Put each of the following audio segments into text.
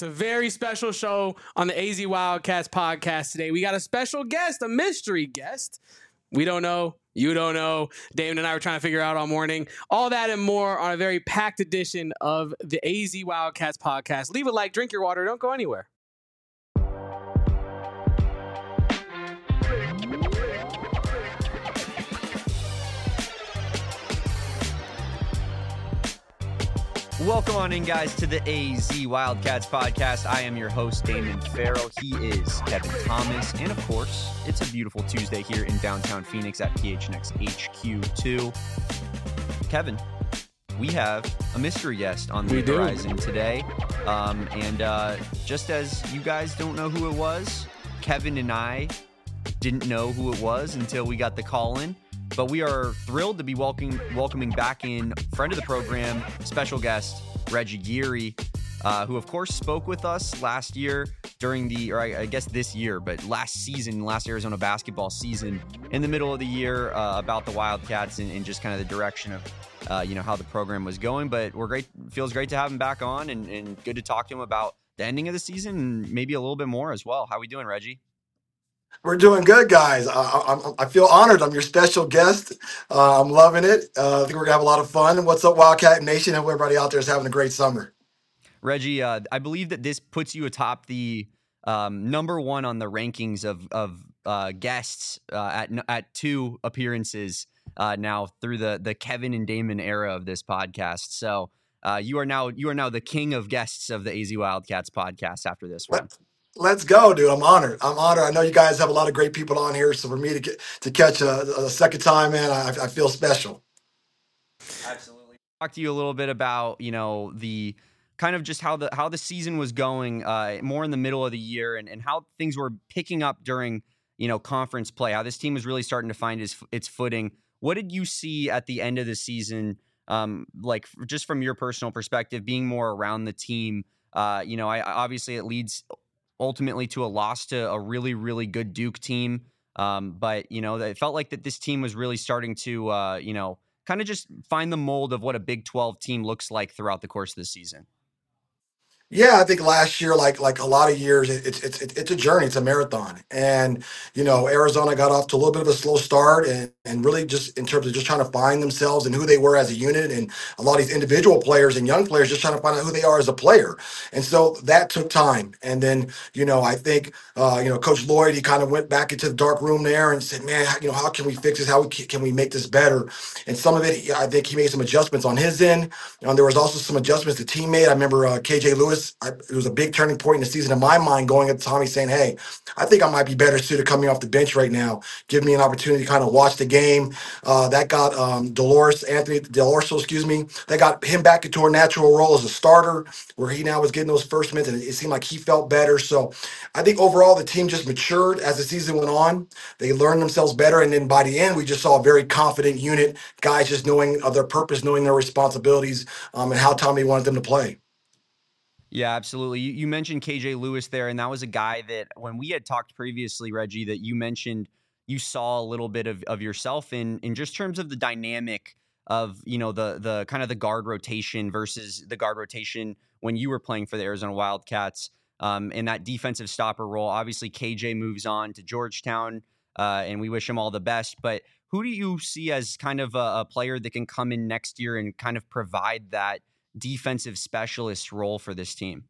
It's a very special show on the AZ Wildcats podcast today. We got a special guest, a mystery guest. We don't know. You don't know. Damon and I were trying to figure out all morning. All that and more on a very packed edition of the AZ Wildcats podcast. Leave a like, drink your water. Don't go anywhere. Welcome on in, guys, to the AZ Wildcats podcast. I am your host, Damon Farrow. He is Kevin Thomas. And, of course, it's a beautiful Tuesday here in downtown Phoenix at PHNX HQ2. Kevin, we have a mystery guest on the horizon today. Just as you guys don't know who it was, Kevin and I didn't know who it was until we got the call in. But we are thrilled to be welcoming back in friend of the program, special guest, Reggie Geary, who, of course, spoke with us last year this year, but last Arizona basketball season, in the middle of the year about the Wildcats and just kind of the direction of, how the program was going. But feels great to have him back on and good to talk to him about the ending of the season and maybe a little bit more as well. How we doing, Reggie? We're doing good, guys. I feel honored. I'm your special guest. I'm loving it. I think we're going to have a lot of fun. What's up, Wildcat Nation? Hope everybody out there is having a great summer. Reggie, I believe that this puts you atop the number one on the rankings of guests at two appearances now through the Kevin and Damon era of this podcast. So you are now the king of guests of the AZ Wildcats podcast after this one. Let's go, dude. I'm honored. I know you guys have a lot of great people on here. So for me to catch a second time, man, I feel special. Absolutely. Talk to you a little bit about, the kind of just how the season was going more in the middle of the year and how things were picking up during, conference play, how this team was really starting to find its footing. What did you see at the end of the season? Just from your personal perspective, being more around the team, obviously it leads ultimately to a loss to a really, really good Duke team. But it felt like that this team was really starting to, kind of just find the mold of what a Big 12 team looks like throughout the course of the season. Yeah, I think last year, like a lot of years, it's a journey, it's a marathon, and Arizona got off to a little bit of a slow start, and really just in terms of just trying to find themselves and who they were as a unit, and a lot of these individual players and young players just trying to find out who they are as a player, and so that took time, and then I think Coach Lloyd, he kind of went back into the dark room there and said, man, how can we fix this? How can we make this better? And some of it, I think he made some adjustments on his end. There was also some adjustments the team made. I remember KJ Lewis. It was a big turning point in the season in my mind going at Tommy saying, hey, I think I might be better suited coming off the bench right now. Give me an opportunity to kind of watch the game. That got Anthony Delorso, that got him back into a natural role as a starter where he now was getting those first minutes and it seemed like he felt better. So I think overall the team just matured as the season went on. They learned themselves better. And then by the end, we just saw a very confident unit, guys just knowing of their purpose, knowing their responsibilities and how Tommy wanted them to play. Yeah, absolutely. You mentioned KJ Lewis there, and that was a guy that when we had talked previously, Reggie, that you mentioned you saw a little bit of yourself in just terms of the dynamic of, the kind of the guard rotation versus the guard rotation when you were playing for the Arizona Wildcats in that defensive stopper role. Obviously, KJ moves on to Georgetown, and we wish him all the best. But who do you see as kind of a player that can come in next year and kind of provide that defensive specialist role for this team?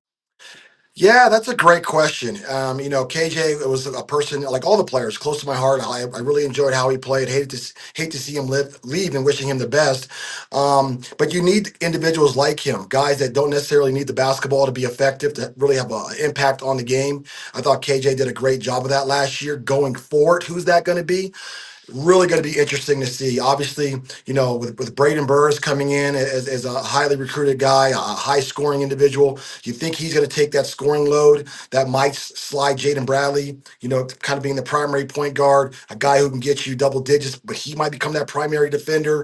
Yeah, that's a great question. KJ was a person like all the players close to my heart. I really enjoyed how he played. Hate to see him leave and wishing him the best. But you need individuals like him, guys that don't necessarily need the basketball to be effective, to really have an impact on the game. I thought KJ did a great job of that last year. Going forward, who's that going to be? Really going to be interesting to see. Obviously, with Braden Burrs coming in as a highly recruited guy, a high scoring individual, you think he's going to take that scoring load that might slide Jaden Bradley, kind of being the primary point guard, a guy who can get you double digits, but he might become that primary defender.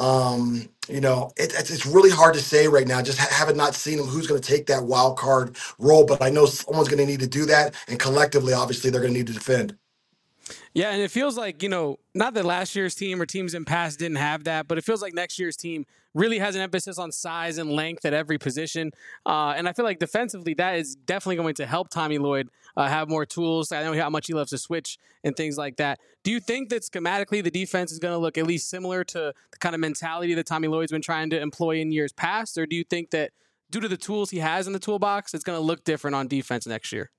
It's really hard to say right now. Just having not seen him, who's going to take that wild card role. But I know someone's going to need to do that, and collectively, obviously, they're going to need to defend. Yeah, and it feels like, not that last year's team or teams in past didn't have that, but it feels like next year's team really has an emphasis on size and length at every position. And I feel like defensively, that is definitely going to help Tommy Lloyd have more tools. I know how much he loves to switch and things like that. Do you think that schematically the defense is going to look at least similar to the kind of mentality that Tommy Lloyd's been trying to employ in years past? Or do you think that due to the tools he has in the toolbox, it's going to look different on defense next year?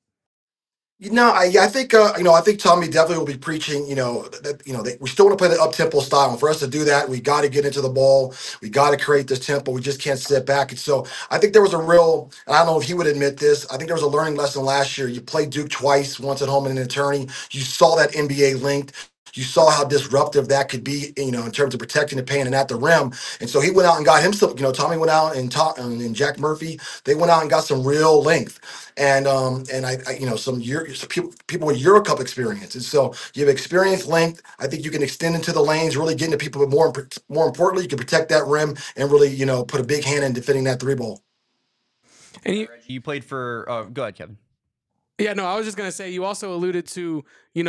I think I think Tommy definitely will be preaching. We still want to play the up tempo style. And for us to do that, we got to get into the ball. We got to create this tempo. We just can't sit back. And so I think there was a real. And I don't know if he would admit this. I think there was a learning lesson last year. You played Duke twice, once at home and an attorney. You saw that NBA linked. You saw how disruptive that could be, in terms of protecting the paint and at the rim. And so he went out and got himself, Tommy went out and Jack Murphy, they went out and got some real length. And some people with Euro Cup experience. And so you have experience length. I think you can extend into the lanes, really get into people, but more importantly, you can protect that rim and really, put a big hand in defending that three ball. And you played for, go ahead, Kevin. Yeah, no, I was just going to say, you also alluded to,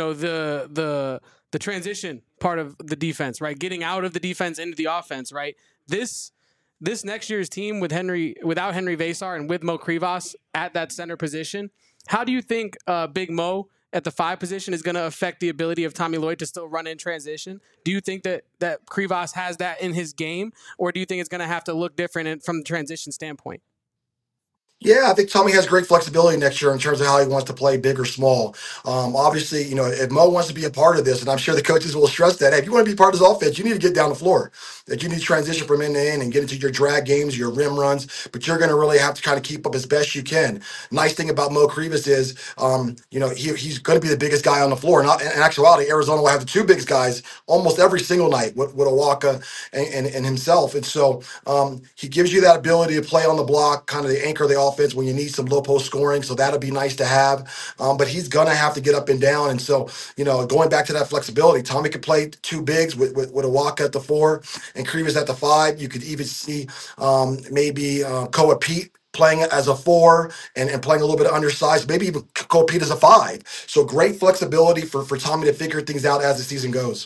the transition part of the defense, right? Getting out of the defense into the offense, right? This next year's team without Henry Versar and with Mo Krivas at that center position, how do you think Big Mo at the 5 position is going to affect the ability of Tommy Lloyd to still run in transition? Do you think that Krivas has that in his game, or do you think it's going to have to look different from the transition standpoint? Yeah, I think Tommy has great flexibility next year in terms of how he wants to play, big or small. Obviously, if Mo wants to be a part of this, and I'm sure the coaches will stress that, hey, if you want to be part of this offense, you need to get down the floor. That you need to transition from end to end and get into your drag games, your rim runs, but you're going to really have to kind of keep up as best you can. Nice thing about Mo Krivas is, he's going to be the biggest guy on the floor. And in actuality, Arizona will have the 2 biggest guys almost every single night with Awaka and himself. And so he gives you that ability to play on the block, kind of the anchor of the offense when you need some low post scoring. So that'll be nice to have. But he's going to have to get up and down. And so, going back to that flexibility, Tommy could play 2 bigs with Awaka at the 4 and Krivas at the 5. You could even see maybe Koa Pete playing as a 4 and playing a little bit of undersized, maybe even Koa Pete as a 5. So great flexibility for Tommy to figure things out as the season goes.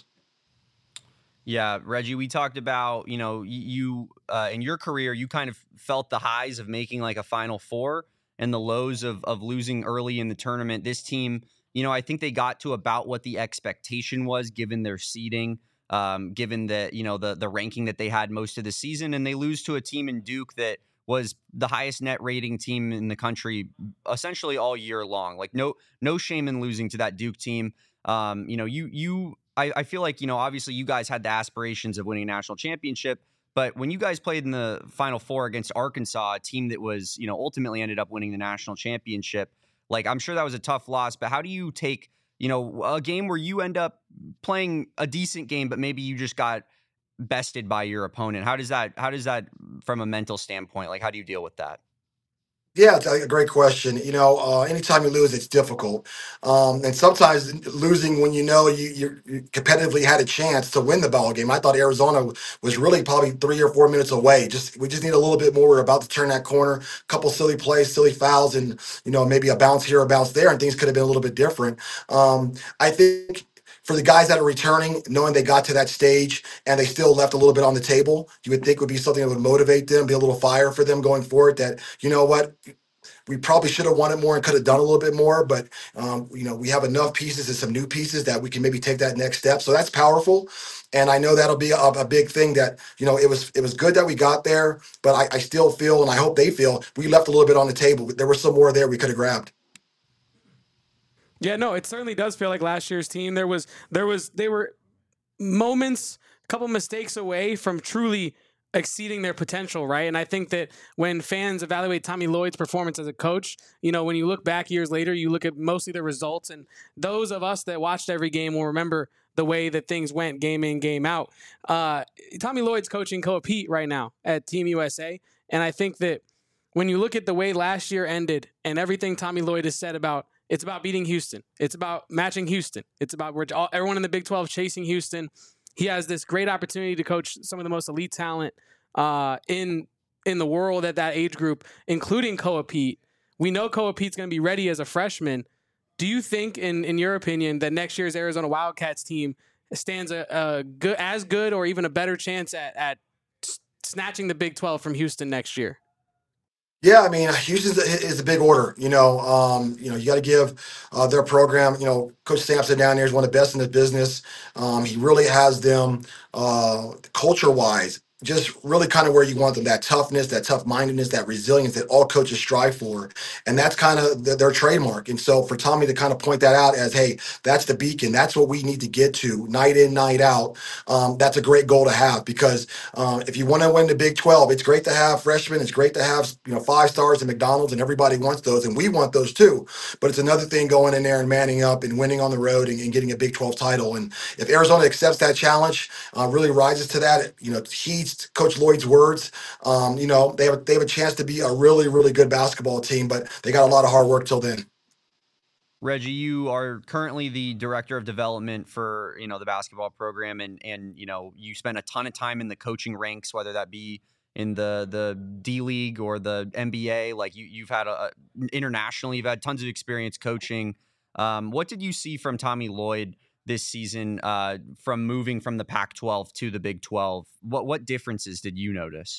Yeah, Reggie, we talked about, you in your career, you kind of felt the highs of making like a Final Four and the lows of losing early in the tournament. This team, I think they got to about what the expectation was given their seeding, given that, the ranking that they had most of the season, and they lose to a team in Duke that was the highest net rating team in the country essentially all year long. Like no shame in losing to that Duke team. I feel like, obviously you guys had the aspirations of winning a national championship, but when you guys played in the Final Four against Arkansas, a team that was, ultimately ended up winning the national championship, like I'm sure that was a tough loss, but how do you take, a game where you end up playing a decent game, but maybe you just got bested by your opponent? How does that from a mental standpoint, like how do you deal with that? Yeah, it's a great question. Anytime you lose, it's difficult. And sometimes losing when you competitively had a chance to win the ball game. I thought Arizona was really probably 3 or 4 minutes away. We just need a little bit more. We're about to turn that corner. A couple silly plays, silly fouls, and maybe a bounce here, a bounce there, and things could have been a little bit different. I think for the guys that are returning, knowing they got to that stage and they still left a little bit on the table, you would think would be something that would motivate them, be a little fire for them going forward. That, we probably should have won it more and could have done a little bit more, but we have enough pieces and some new pieces that we can maybe take that next step. So that's powerful. And I know that'll be a big thing that, it was good that we got there, but I still feel, and I hope they feel, we left a little bit on the table. There was some more there we could have grabbed. Yeah, no, it certainly does feel like last year's team. They were moments, a couple mistakes away from truly exceeding their potential, right? And I think that when fans evaluate Tommy Lloyd's performance as a coach, when you look back years later, you look at mostly the results, and those of us that watched every game will remember the way that things went game in, game out. Tommy Lloyd's coaching Koa Pete right now at Team USA, and I think that when you look at the way last year ended and everything Tommy Lloyd has said about, it's about beating Houston. It's about matching Houston. It's about everyone in the Big 12 chasing Houston. He has this great opportunity to coach some of the most elite talent in the world at that age group, including Koa Pete. We know Koa Pete's going to be ready as a freshman. Do you think, in your opinion, that next year's Arizona Wildcats team stands a good or even a better chance at snatching the Big 12 from Houston next year? Yeah, I mean, Houston is a big order. You got to give their program. Coach Sampson down there is one of the best in the business. He really has them culture-wise, just really kind of where you want them. That toughness, that tough-mindedness, that resilience that all coaches strive for, and that's kind of their trademark. And so for Tommy to kind of point that out as, hey, that's the beacon. That's what we need to get to night in, night out. That's a great goal to have because if you want to win the Big 12, it's great to have freshmen. It's great to have 5 stars at McDonald's, and everybody wants those, and we want those too. But it's another thing going in there and manning up and winning on the road and getting a Big 12 title. And if Arizona accepts that challenge, really rises to that, heeds Coach Lloyd's words. They have a chance to be a really really good basketball team, but they got a lot of hard work till then. Reggie, you are currently the director of development for the basketball program, and you spend a ton of time in the coaching ranks, whether that be in the D League or the NBA. Like you've had internationally, you've had tons of experience coaching. What did you see from Tommy Lloyd this season, from moving from the Pac-12 to the Big 12? What differences did you notice?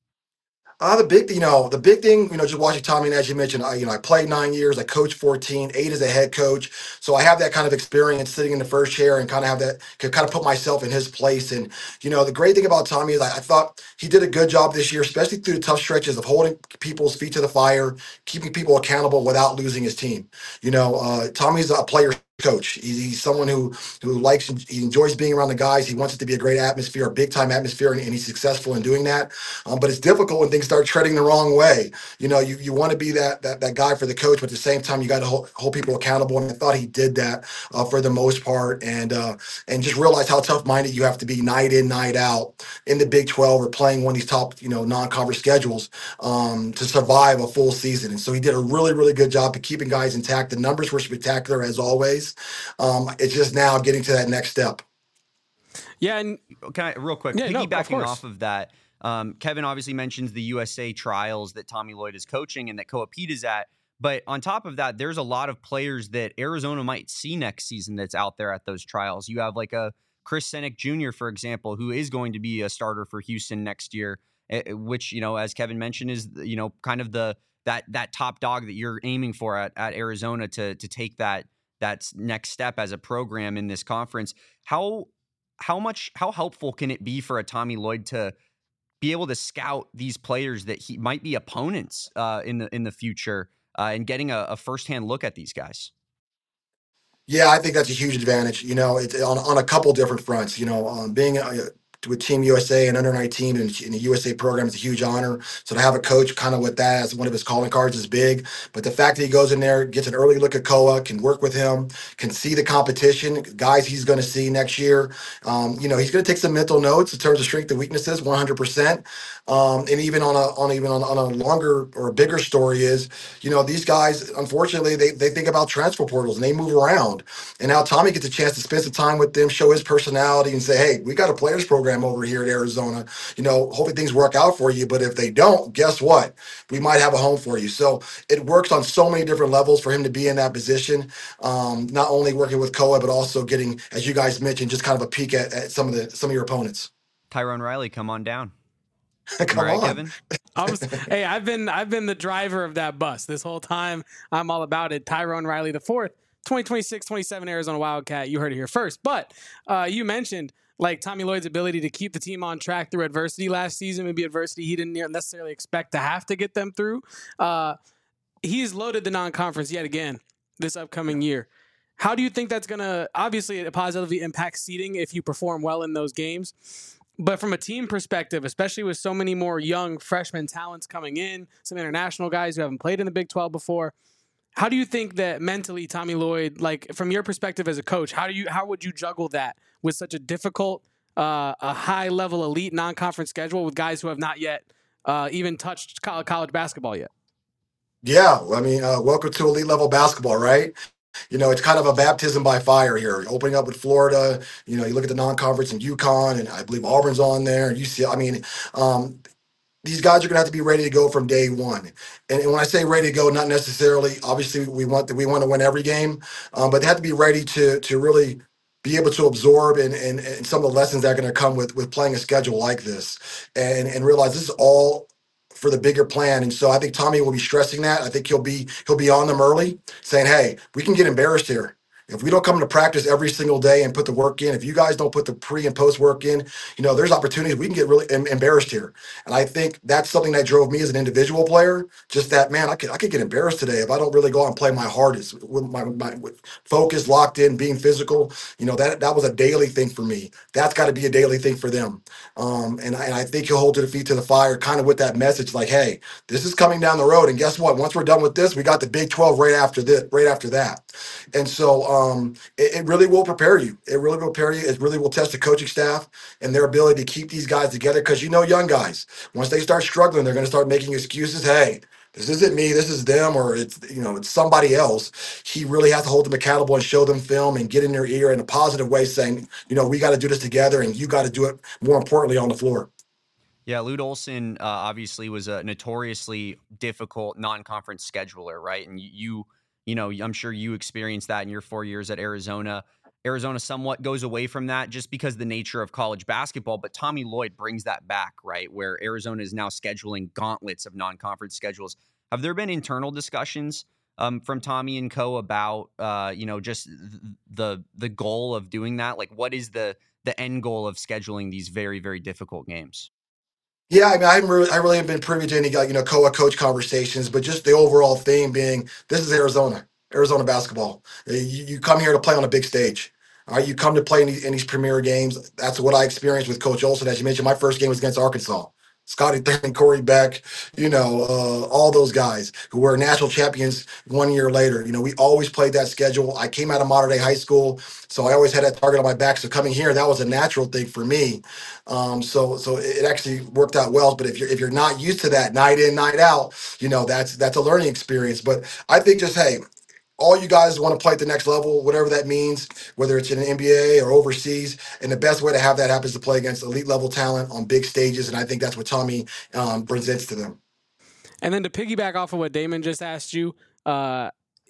The big thing, just watching Tommy, and as you mentioned, I played 9 years, I coached 14, 8 as a head coach. So I have that kind of experience sitting in the first chair and kind of have that, could kind of put myself in his place. And, the great thing about Tommy is I thought he did a good job this year, especially through the tough stretches of holding people's feet to the fire, keeping people accountable without losing his team. Tommy's a player coach. He's someone who he enjoys being around the guys. He wants it to be a great atmosphere, a big time atmosphere, and he's successful in doing that. But it's difficult when things start treading the wrong way. You want to be that guy for the coach, but at the same time, you got to hold people accountable. And I thought he did that for the most part, and just realize how tough minded you have to be night in, night out in the Big 12 or playing one of these top non-conference schedules to survive a full season. And so he did a really really good job of keeping guys intact. The numbers were spectacular as always. It's just now getting to that next step. Yeah, and can I real quick piggybacking off of that? Kevin obviously mentions the USA trials that Tommy Lloyd is coaching and that Coapete is at. But on top of that, there's a lot of players that Arizona might see next season that's out there at those trials. You have like a Chris Senek Jr., for example, who is going to be a starter for Houston next year, which, as Kevin mentioned, is, kind of that top dog that you're aiming for at Arizona to take that next step as a program in this conference. How helpful can it be for a Tommy Lloyd to be able to scout these players that he might be opponents in the future and getting a firsthand look at these guys? Yeah, I think that's a huge advantage. It's on a couple different fronts. Being with Team USA and under 19 in the USA program is a huge honor. So to have a coach kind of with that as one of his calling cards is big. But the fact that he goes in there, gets an early look at Koa, can work with him, can see the competition, guys he's going to see next year. He's going to take some mental notes in terms of strength and weaknesses, 100%. And even on a longer or a bigger story is, these guys, unfortunately, they think about transfer portals and they move around. And now Tommy gets a chance to spend some time with them, show his personality, and say, hey, we got a players program over here at Arizona. Hopefully things work out for you. But if they don't, guess what? We might have a home for you. So it works on so many different levels for him to be in that position. Not only working with Koa, but also getting, as you guys mentioned, just kind of a peek at some of your opponents. Tyrone Riley, come on down. Come right, on, Kevin. Hey, I've been the driver of that bus this whole time. I'm all about it. Tyrone Riley the fourth, 2026-27 Arizona Wildcat. You heard it here first. But you mentioned like Tommy Lloyd's ability to keep the team on track through adversity last season, maybe adversity he didn't necessarily expect to have to get them through. He's loaded the non-conference yet again this upcoming year. How do you think that's going to, obviously it positively impact seeding if you perform well in those games? But from a team perspective, especially with so many more young freshman talents coming in, some international guys who haven't played in the Big 12 before, how do you think that mentally Tommy Lloyd, like from your perspective as a coach, how would you juggle that with such a difficult, a high level elite non-conference schedule with guys who have not yet even touched college basketball yet? Yeah, I mean, welcome to elite level basketball, right? It's kind of a baptism by fire here. Opening up with Florida, you look at the non-conference in UConn, and I believe Auburn's on there. UCLA. I mean, these guys are going to have to be ready to go from day one. And when I say ready to go, not necessarily, obviously, we want to win every game, but they have to be ready to really be able to absorb and some of the lessons that are going to come with playing a schedule like this, and realize this is all for the bigger plan. And so I think Tommy will be stressing that. I think he'll be on them early, saying, "Hey, we can get embarrassed here." If we don't come to practice every single day and put the work in, if you guys don't put the pre and post work in, there's opportunities we can get really embarrassed here. And I think that's something that drove me as an individual player. Just that, man, I could get embarrassed today if I don't really go out and play my hardest with my with focus locked in, being physical. That was a daily thing for me. That's got to be a daily thing for them. And I think he'll hold to the feet to the fire, kind of with that message, like, hey, this is coming down the road, and guess what? Once we're done with this, we got the Big 12 right after this, right after that. And so it really will prepare you. It really will prepare you. It really will test the coaching staff and their ability to keep these guys together. Because young guys, once they start struggling, they're going to start making excuses. Hey, this isn't me. This is them, or it's somebody else. He really has to hold them accountable and show them film and get in their ear in a positive way, saying, we got to do this together, and you got to do it more importantly on the floor. Yeah, Lute Olson obviously was a notoriously difficult non-conference scheduler, right? And I'm sure you experienced that in your 4 years at Arizona. Arizona somewhat goes away from that just because the nature of college basketball, but Tommy Lloyd brings that back, right? Where Arizona is now scheduling gauntlets of non-conference schedules. Have there been internal discussions from Tommy and co about just the goal of doing that? Like, what is the end goal of scheduling these very, very difficult games? Yeah, I mean, I really haven't been privy to any coach conversations, but just the overall theme being this is Arizona basketball. You come here to play on a big stage. All right, you come to play in these premier games. That's what I experienced with Coach Olson. As you mentioned, my first game was against Arkansas. Scotty Thurman, Corey Beck, all those guys who were national champions 1 year later. We always played that schedule. I came out of Modern Day High School, so I always had that target on my back. So coming here, that was a natural thing for me. So it actually worked out well. But if you're not used to that night in, night out, that's a learning experience. But I think just, hey, all you guys want to play at the next level, whatever that means, whether it's in an NBA or overseas. And the best way to have that happen is to play against elite level talent on big stages. And I think that's what Tommy presents to them. And then to piggyback off of what Damon just asked you, I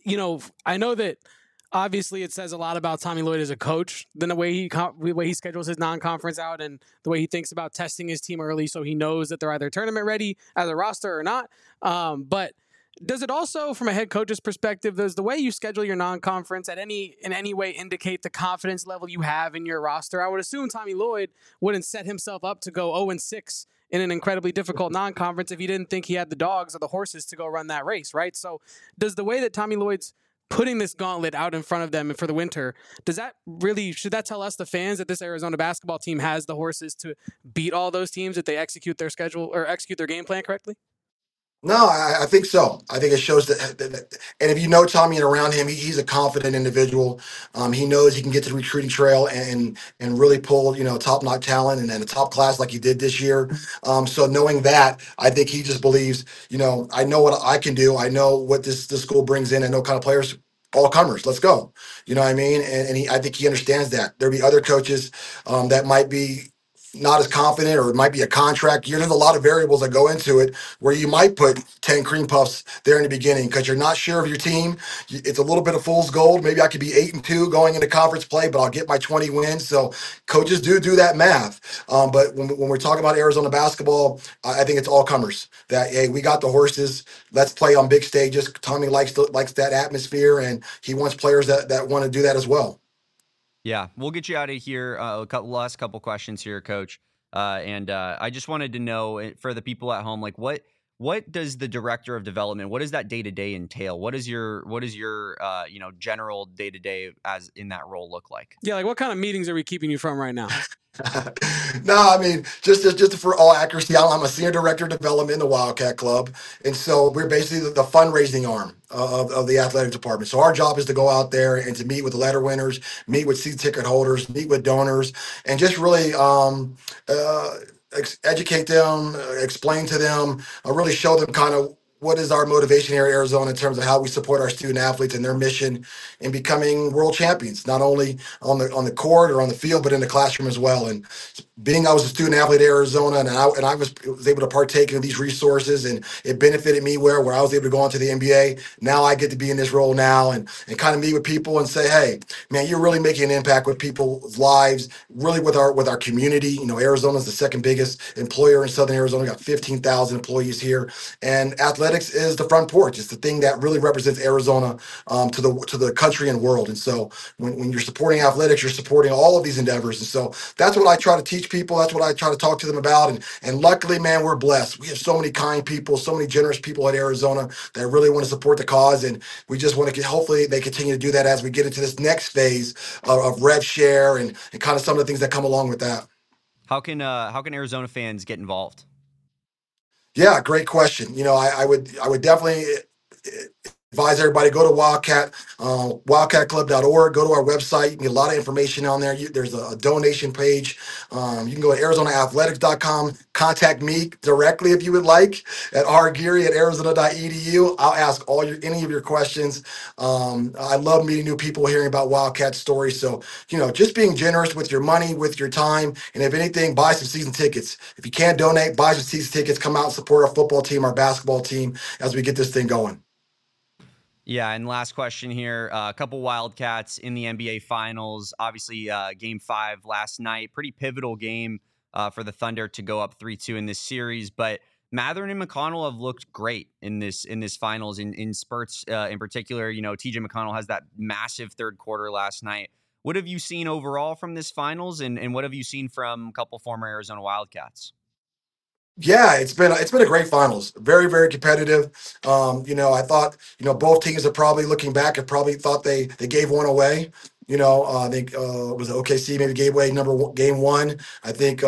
know that obviously it says a lot about Tommy Lloyd as a coach than the way he schedules his non-conference out and the way he thinks about testing his team early so he knows that they're either tournament ready as a roster or not. But does it also, from a head coach's perspective, does the way you schedule your non-conference in any way indicate the confidence level you have in your roster? I would assume Tommy Lloyd wouldn't set himself up to go 0-6 in an incredibly difficult non-conference if he didn't think he had the dogs or the horses to go run that race, right? So does the way that Tommy Lloyd's putting this gauntlet out in front of them for the winter, should that tell us, the fans, that this Arizona basketball team has the horses to beat all those teams if they execute their schedule or execute their game plan correctly? No, I think so. I think it shows and if you know Tommy and around him, he's a confident individual. He knows he can get to the recruiting trail and really pull top notch talent and then a top class like he did this year. So knowing that, I think he just believes. I know what I can do. I know what this school brings in. I know kind of players. All comers, let's go. You know what I mean? And I think he understands that. There'll be other coaches that might be not as confident, or it might be a contract year. There's a lot of variables that go into it where you might put 10 cream puffs there in the beginning because you're not sure of your team. It's a little bit of fool's gold. Maybe I could be 8-2 going into conference play, but I'll get my 20 wins. So coaches do that math. But when we're talking about Arizona basketball, I think it's all comers that, hey, we got the horses. Let's play on big stages. Tommy likes that atmosphere, and he wants players that want to do that as well. Yeah, we'll get you out of here. Last couple questions here, Coach. And I just wanted to know, for the people at home, like what does the director of development, what does that day to day entail? What is your general day to day as in that role look like? Yeah, like what kind of meetings are we keeping you from right now? No, I mean, just for all accuracy, I'm a senior director of development in the Wildcat Club, and so we're basically the fundraising arm of the athletic department. So our job is to go out there and to meet with the letter winners, meet with season ticket holders, meet with donors, and just really educate them, explain to them, really show them kind of what is our motivation here at Arizona in terms of how we support our student athletes and their mission in becoming world champions, not only on the court or on the field, but in the classroom as well. And being I was a student athlete at Arizona, and I was able to partake in these resources, and it benefited me where I was able to go on to the NBA. Now I get to be in this role now and kind of meet with people and say, hey, man, you're really making an impact with people's lives, really with our community. You know, Arizona is the second biggest employer in Southern Arizona. We got 15,000 employees here, and athletics is the front porch. It's the thing that really represents Arizona to the country and world. And so when you're supporting athletics, you're supporting all of these endeavors. And so that's what I try to teach people. That's what I try to talk to them about. And luckily, man, we're blessed. We have so many kind people, so many generous people at Arizona that really want to support the cause. And we just want to hopefully they continue to do that as we get into this next phase of rev share and kind of some of the things that come along with that. How can Arizona fans get involved? Yeah, great question. You know, I would definitely advise everybody go to wildcatclub.org, go to our website. You can get a lot of information on there. There's a donation page. You can go to arizonaathletics.com, contact me directly if you would like at rgeary@arizona.edu. I'll ask any of your questions. I love meeting new people, hearing about Wildcat stories. So, you know, just being generous with your money, with your time, and if anything, buy some season tickets. If you can't donate, buy some season tickets, come out and support our football team, our basketball team as we get this thing going. Yeah, and last question here. A couple Wildcats in the NBA Finals. Obviously, Game 5 last night. Pretty pivotal game for the Thunder to go up 3-2 in this series. But Mathurin and McConnell have looked great in this finals in spurts. In particular, you know, TJ McConnell has that massive third quarter last night. What have you seen overall from this finals, and what have you seen from a couple former Arizona Wildcats? Yeah, it's been a great finals. Very, very competitive. You know, I thought, you know, both teams are probably looking back have probably thought they gave one away. You know, I think was it OKC maybe gave away game one. I think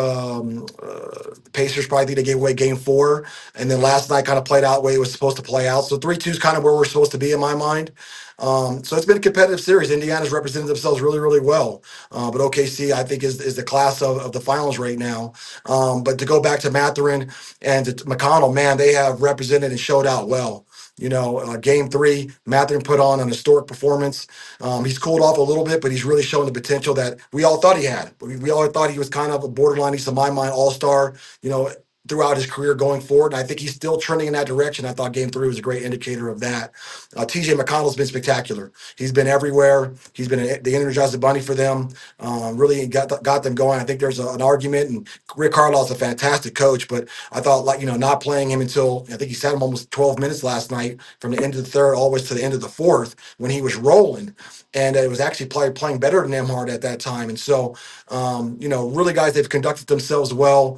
the Pacers probably think they gave away game four, and then last night kind of played out the way it was supposed to play out. So 3-2 is kind of where we're supposed to be in my mind. So it's been a competitive series. Indiana's represented themselves really, really well, but OKC I think is the class of the finals right now. But to go back to Mathurin and to McConnell, man, they have represented and showed out well. You know, game three, Mathurin put on an historic performance. He's cooled off a little bit, but he's really shown the potential that we all thought he had. We all thought he was kind of a borderline, he's to my mind, all-star, you know, throughout his career going forward. And I think he's still trending in that direction. I thought game three was a great indicator of that. TJ McConnell's been spectacular. He's been everywhere. He's been the Energizer Bunny for them. Really got them going. I think there's an argument, and Rick Carlisle's a fantastic coach, but I thought, like, you know, not playing him until I think he sat him almost 12 minutes last night from the end of the third always to the end of the fourth when he was rolling, and it was actually playing better than Nembhard at that time. And so, you know, really, guys, they've conducted themselves well,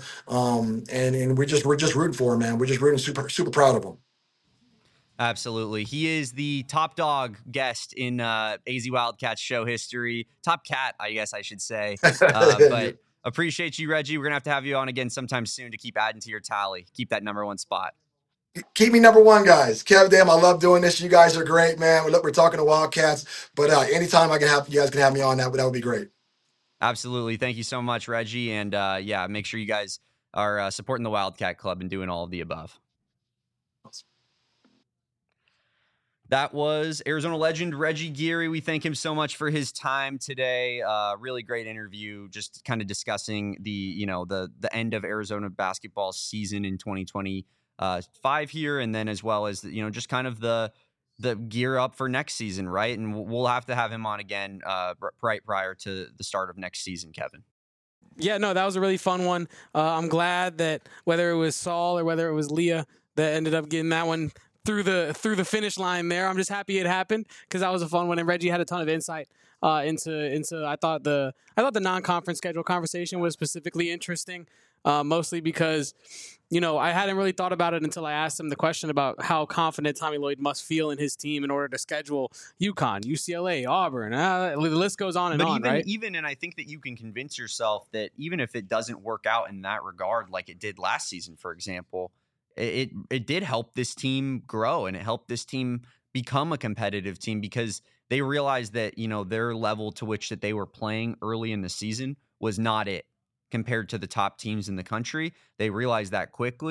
and we're just rooting for him, man. We're just rooting, super proud of him. Absolutely. He is the top dog guest in AZ Wildcats show history. Top cat, I guess I should say. But appreciate you, Reggie. We're going to have you on again sometime soon to keep adding to your tally. Keep that number one spot. Keep me number one, guys. Kev, damn, I love doing this. You guys are great, man. Look, we're talking to Wildcats, but anytime I can have you guys can have me on, that would be great. Absolutely. Thank you so much, Reggie. And yeah, make sure you guys are supporting the Wildcat Club and doing all of the above. That was Arizona legend Reggie Geary. We thank him so much for his time today. Really great interview, just kind of discussing the end of Arizona basketball season in 2025 here, and then as well as just kind of the gear up for next season, right? And we'll have to have him on again right prior to the start of next season, Kevin. Yeah, no, that was a really fun one. I'm glad that whether it was Saul or whether it was Leah that ended up getting that one through the finish line there. I'm just happy it happened because that was a fun one, and Reggie had a ton of insight into. I thought the non-conference schedule conversation was specifically interesting, mostly because I hadn't really thought about it until I asked him the question about how confident Tommy Lloyd must feel in his team in order to schedule UConn, UCLA, Auburn. The list goes on and on, right? And I think that you can convince yourself that even if it doesn't work out in that regard, like it did last season, for example. It did help this team grow, and it helped this team become a competitive team because they realized that, their level to which that they were playing early in the season was not it compared to the top teams in the country. They realized that quickly,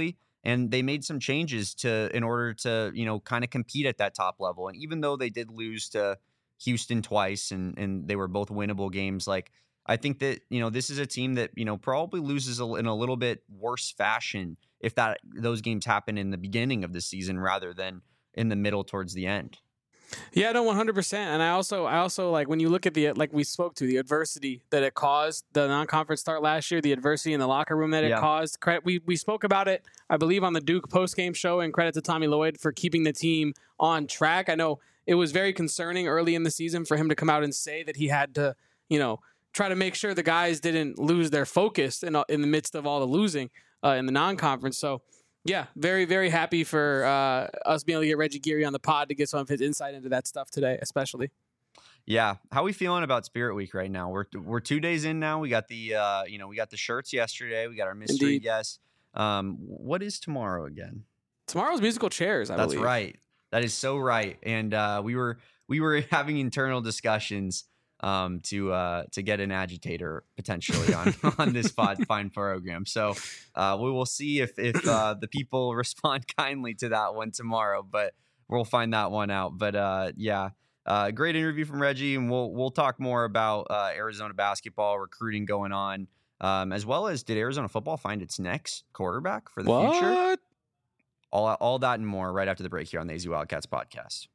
And they made some changes in order to, kind of compete at that top level. And even though they did lose to Houston twice and they were both winnable games, like, I think that, this is a team that, probably loses in a little bit worse fashion if those games happen in the beginning of the season rather than in the middle towards the end. Yeah, no, 100%. And I also like when you look at like we spoke to the adversity that it caused, the non-conference start last year, the adversity in the locker room that it caused. We spoke about it, I believe, on the Duke post-game show, and credit to Tommy Lloyd for keeping the team on track. I know it was very concerning early in the season for him to come out and say that he had to, try to make sure the guys didn't lose their focus in the midst of all the losing in the non-conference. So, yeah, very, very happy for us being able to get Reggie Geary on the pod to get some of his insight into that stuff today, especially. Yeah, how are we feeling about Spirit Week right now? We're 2 days in now. We got the we got the shirts yesterday. We got our mystery guest. What is tomorrow again? Tomorrow's musical chairs. I believe. That's right. That is so right. And we were having internal discussions to get an agitator potentially on this fine program. So we will see if the people respond kindly to that one tomorrow, but we'll find that one out. But great interview from Reggie, and we'll talk more about Arizona basketball recruiting going on, as well as did Arizona football find its next quarterback for the future? All that and more right after the break here on the AZ Wildcats podcast.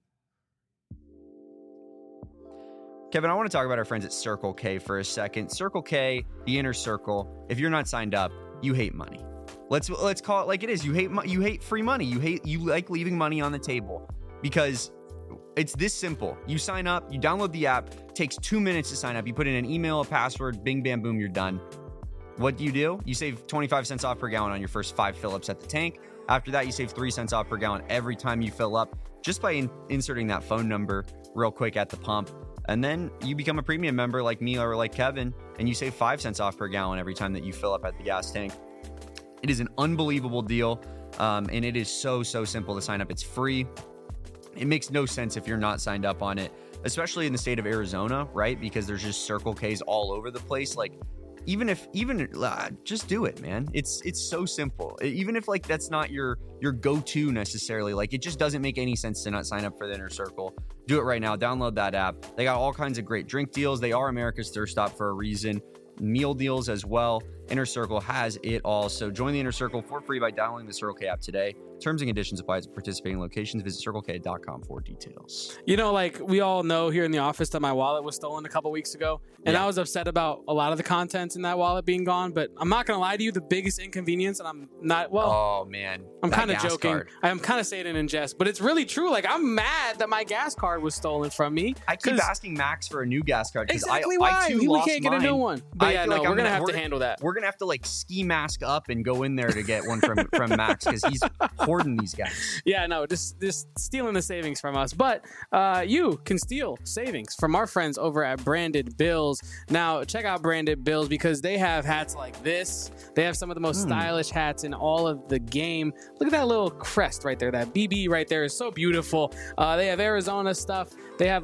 Kevin, I want to talk about our friends at Circle K for a second. Circle K, the inner circle. If you're not signed up, you hate money. Let's call it like it is. You hate free money. You like leaving money on the table because it's this simple. You sign up, you download the app. It takes 2 minutes to sign up. You put in an email, a password, bing, bam, boom, you're done. What do? You save 25 cents off per gallon on your first 5 fill-ups at the tank. After that, you save 3 cents off per gallon every time you fill up just by inserting that phone number real quick at the pump. And then you become a premium member like me or like Kevin, and you save 5 cents off per gallon every time that you fill up at the gas tank. It is an unbelievable deal, and it is so simple to sign up. It's free. It makes no sense if you're not signed up on it, especially in the state of Arizona, right? Because there's just Circle K's all over the place. Like, just do it, man. It's so simple. Even if like that's not your go-to necessarily, like it just doesn't make any sense to not sign up for the Inner Circle. Do it right now. Download that app. They got all kinds of great drink deals. They are America's thirst stop for a reason. Meal deals as well. Inner Circle has it all. So join the Inner Circle for free by downloading the Circle K app today. Terms and conditions apply at participating locations. Visit circlek.com for details. Like we all know here in the office that my wallet was stolen a couple weeks ago, and I was upset about a lot of the contents in that wallet being gone. But I'm not gonna lie to you, the biggest inconvenience, and I'm not oh man, I'm kind of joking. I'm kind of saying it in jest, but it's really true. Like I'm mad that my gas card was stolen from me. I keep asking Max for a new gas card. Exactly why we can't get a new one. But we're gonna have to handle that. We're gonna have to like ski mask up and go in there to get one from Max because he's hoarding these guys. Yeah, no, just stealing the savings from us. But you can steal savings from our friends over at Branded Bills. Now, check out Branded Bills because they have hats like this. They have some of the most stylish hats in all of the game. Look at that little crest right there. That BB right there is so beautiful. They have Arizona stuff. They have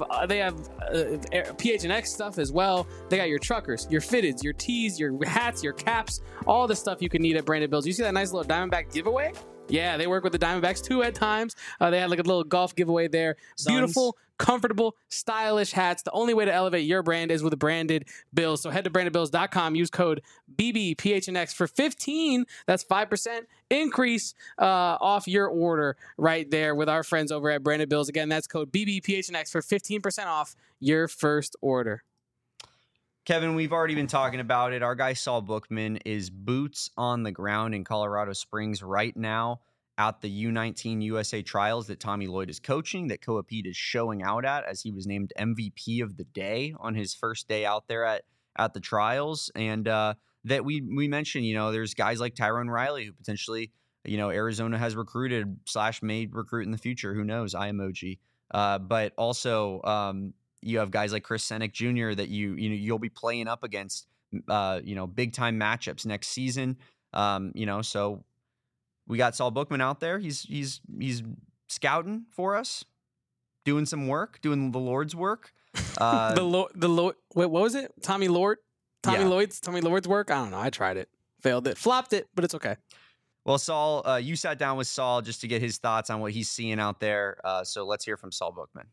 PHNX stuff as well. They got your truckers, your fitteds, your tees, your hats, your caps, all the stuff you can need at Branded Bills. You see that nice little Diamondback giveaway? Yeah, they work with the Diamondbacks too at times. They had like a little golf giveaway there. Beautiful, comfortable, stylish hats. The only way to elevate your brand is with Branded Bills. So head to brandedbills.com. Use code BBPHNX for 15. That's 5% increase off your order right there with our friends over at Branded Bills. Again, that's code BBPHNX for 15% off your first order. Kevin, we've already been talking about it. Our guy Saul Bookman is boots on the ground in Colorado Springs right now at the U19 USA trials that Tommy Lloyd is coaching, that Coapede is showing out at, as he was named MVP of the day on his first day out there at the trials. And that we mentioned, there's guys like Tyrone Riley who potentially, Arizona has recruited / may recruit in the future. Who knows? I emoji. But also, you have guys like Chris Senek Jr. that you'll be playing up against, big time matchups next season. So we got Saul Bookman out there. He's scouting for us, doing some work, doing the Lord's work. The Lord. Wait, what was it? Tommy Lloyd's work. I don't know. I tried it, failed it, flopped it, but it's okay. Well, Saul, you sat down with Saul just to get his thoughts on what he's seeing out there. So let's hear from Saul Bookman.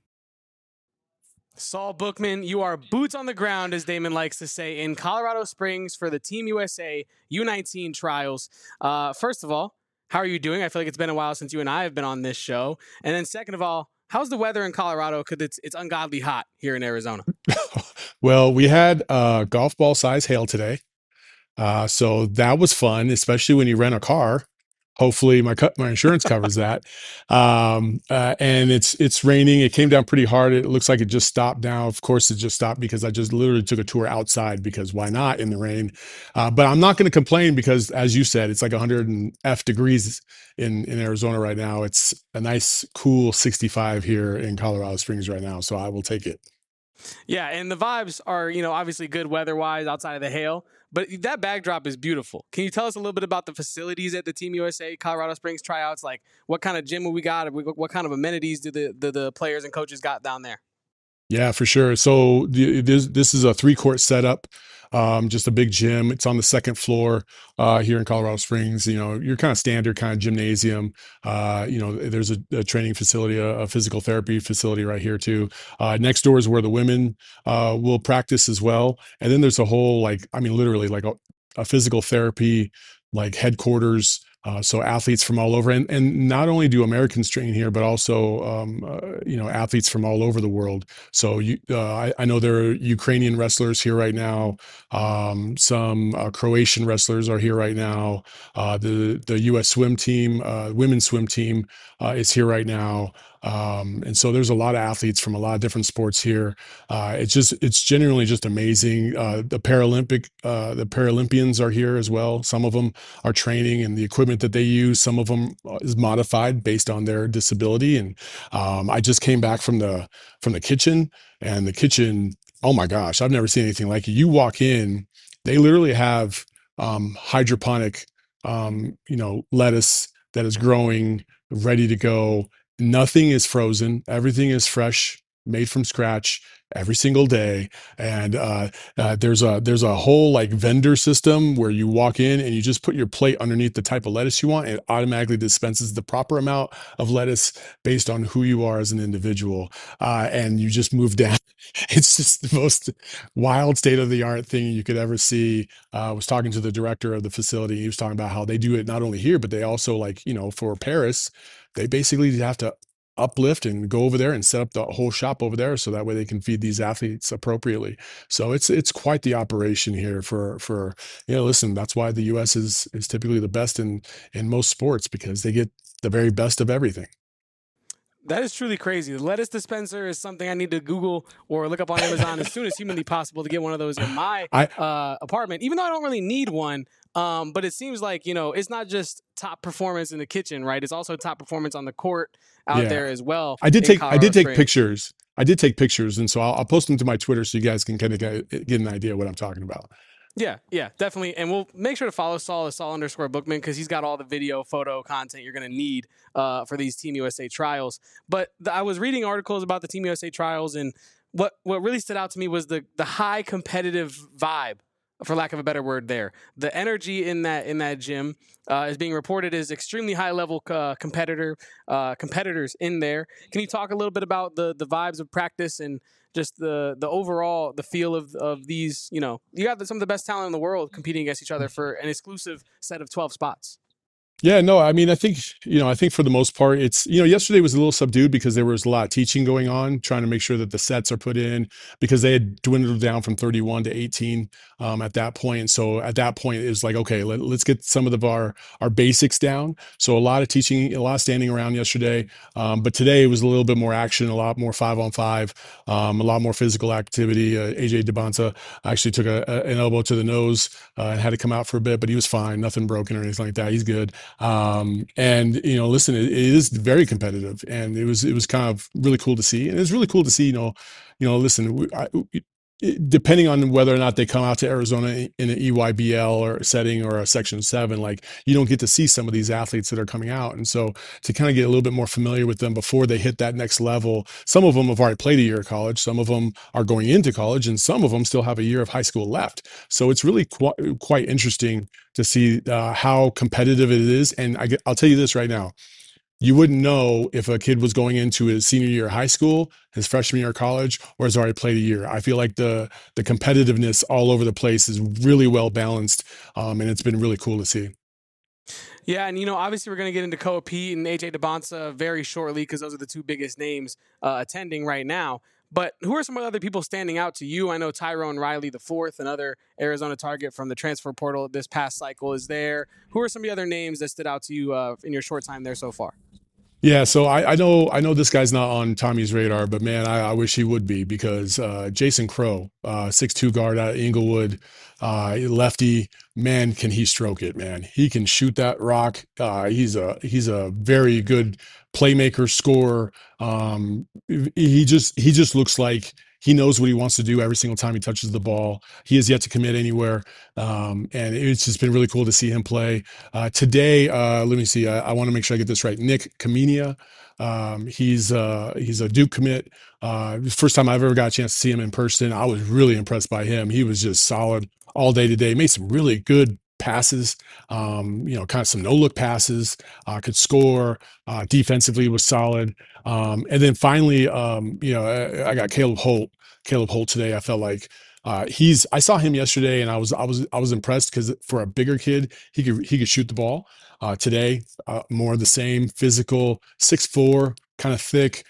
Saul Bookman, you are boots on the ground, as Damon likes to say, in Colorado Springs for the Team USA U19 trials. First of all, how are you doing? I feel like it's been a while since you and I have been on this show. And then second of all, how's the weather in Colorado? Because it's ungodly hot here in Arizona. Well, we had golf ball size hail today. So that was fun, especially when you rent a car. Hopefully my insurance covers that. And it's raining. It came down pretty hard. It looks like it just stopped now. Of course, it just stopped because I just literally took a tour outside because why not in the rain? But I'm not going to complain because, as you said, it's like 100 and F degrees in Arizona right now. It's a nice, cool 65 here in Colorado Springs right now. So I will take it. Yeah, and the vibes are, obviously good weather-wise outside of the hail, but that backdrop is beautiful. Can you tell us a little bit about the facilities at the Team USA Colorado Springs tryouts? Like, what kind of gym we got? What kind of amenities do the players and coaches got down there? Yeah, for sure. So this is a 3-court setup, just a big gym. It's on the second floor here in Colorado Springs. Your kind of standard kind of gymnasium. There's a training facility, a physical therapy facility right here too. Next door is where the women will practice as well. And then there's a whole literally like a physical therapy like headquarters. So athletes from all over, and not only do Americans train here, but also athletes from all over the world. So I know there are Ukrainian wrestlers here right now. Some Croatian wrestlers are here right now. The U.S. swim team, women's swim team, is here right now. And so there's a lot of athletes from a lot of different sports here. It's genuinely just amazing. The Paralympians are here as well. Some of them are training, and the equipment that they use, some of them is modified based on their disability. And I just came back from the kitchen, and the kitchen, oh my gosh, I've never seen anything like it. You walk in, they literally have hydroponic lettuce that is growing, ready to go. Nothing is frozen. Everything is fresh, made from scratch every single day. And there's a whole like vendor system where you walk in and you just put your plate underneath the type of lettuce you want. It automatically dispenses the proper amount of lettuce based on who you are as an individual. And you just move down. It's just the most wild state-of-the-art thing you could ever see. I was talking to the director of the facility. He was talking about how they do it not only here, but they also for Paris, they basically have to uplift and go over there and set up the whole shop over there so that way they can feed these athletes appropriately. So it's quite the operation here for listen, that's why the US is typically the best in most sports, because they get the very best of everything. That is truly crazy. The lettuce dispenser is something I need to Google or look up on Amazon as soon as humanly possible to get one of those in my apartment, even though I don't really need one. But it seems like, it's not just top performance in the kitchen, right? It's also top performance on the court out there as well. I did take pictures. I did take pictures. And so I'll post them to my Twitter so you guys can kind of get an idea of what I'm talking about. Yeah, definitely. And we'll make sure to follow Saul at Saul_Bookman, because he's got all the video, photo content you're going to need for these Team USA trials. But I was reading articles about the Team USA trials, and what really stood out to me was the high competitive vibe, for lack of a better word there. The energy in that gym is being reported as extremely high-level competitors in there. Can you talk a little bit about the vibes of practice and just the overall, the feel of these, you got some of the best talent in the world competing against each other for an exclusive set of 12 spots? Yeah, no, I mean, I think for the most part, it's, yesterday was a little subdued because there was a lot of teaching going on, trying to make sure that the sets are put in, because they had dwindled down from 31 to 18 at that point. And so at that point, it was like, okay, let's get some of our basics down. So a lot of teaching, a lot of standing around yesterday. But today it was a little bit more action, a lot more 5-on-5, a lot more physical activity. AJ Debonta actually took an elbow to the nose and had to come out for a bit, but he was fine, nothing broken or anything like that. He's good. And listen, it is very competitive, and it was kind of really cool to see, and it was really cool to see, listen, depending on whether or not they come out to Arizona in an EYBL or setting or a Section 7, like you don't get to see some of these athletes that are coming out. And so to kind of get a little bit more familiar with them before they hit that next level, some of them have already played a year of college, some of them are going into college, and some of them still have a year of high school left. So it's really quite interesting to see how competitive it is. And I'll tell you this right now. You wouldn't know if a kid was going into his senior year of high school, his freshman year of college, or has already played a year. I feel like the competitiveness all over the place is really well balanced, and it's been really cool to see. Yeah, and obviously we're going to get into Koa Pete and AJ Debonsa very shortly because those are the two biggest names attending right now. But who are some other people standing out to you? I know Tyrone Riley IV, another Arizona target from the transfer portal this past cycle, is there. Who are some of the other names that stood out to you in your short time there so far? Yeah, so I know this guy's not on Tommy's radar, but man, I wish he would be because Jason Crow, 6'2" guard out of Inglewood, lefty, man, can he stroke it, man. He can shoot that rock. He's a very good playmaker, scorer. He just looks like he knows what he wants to do every single time he touches the ball. He has yet to commit anywhere. And it's just been really cool to see him play. Today, let me see. I want to make sure I get this right. Nick Kamenia. He's a Duke commit. First time I've ever got a chance to see him in person. I was really impressed by him. He was just solid all day today. Made some really good passes, kind of some no-look passes, could score, defensively was solid. And then finally, I got Caleb Holt today. I felt like I saw him yesterday and I was impressed because for a bigger kid, he could shoot the ball. Today, more of the same, physical, 6'4", kind of thick,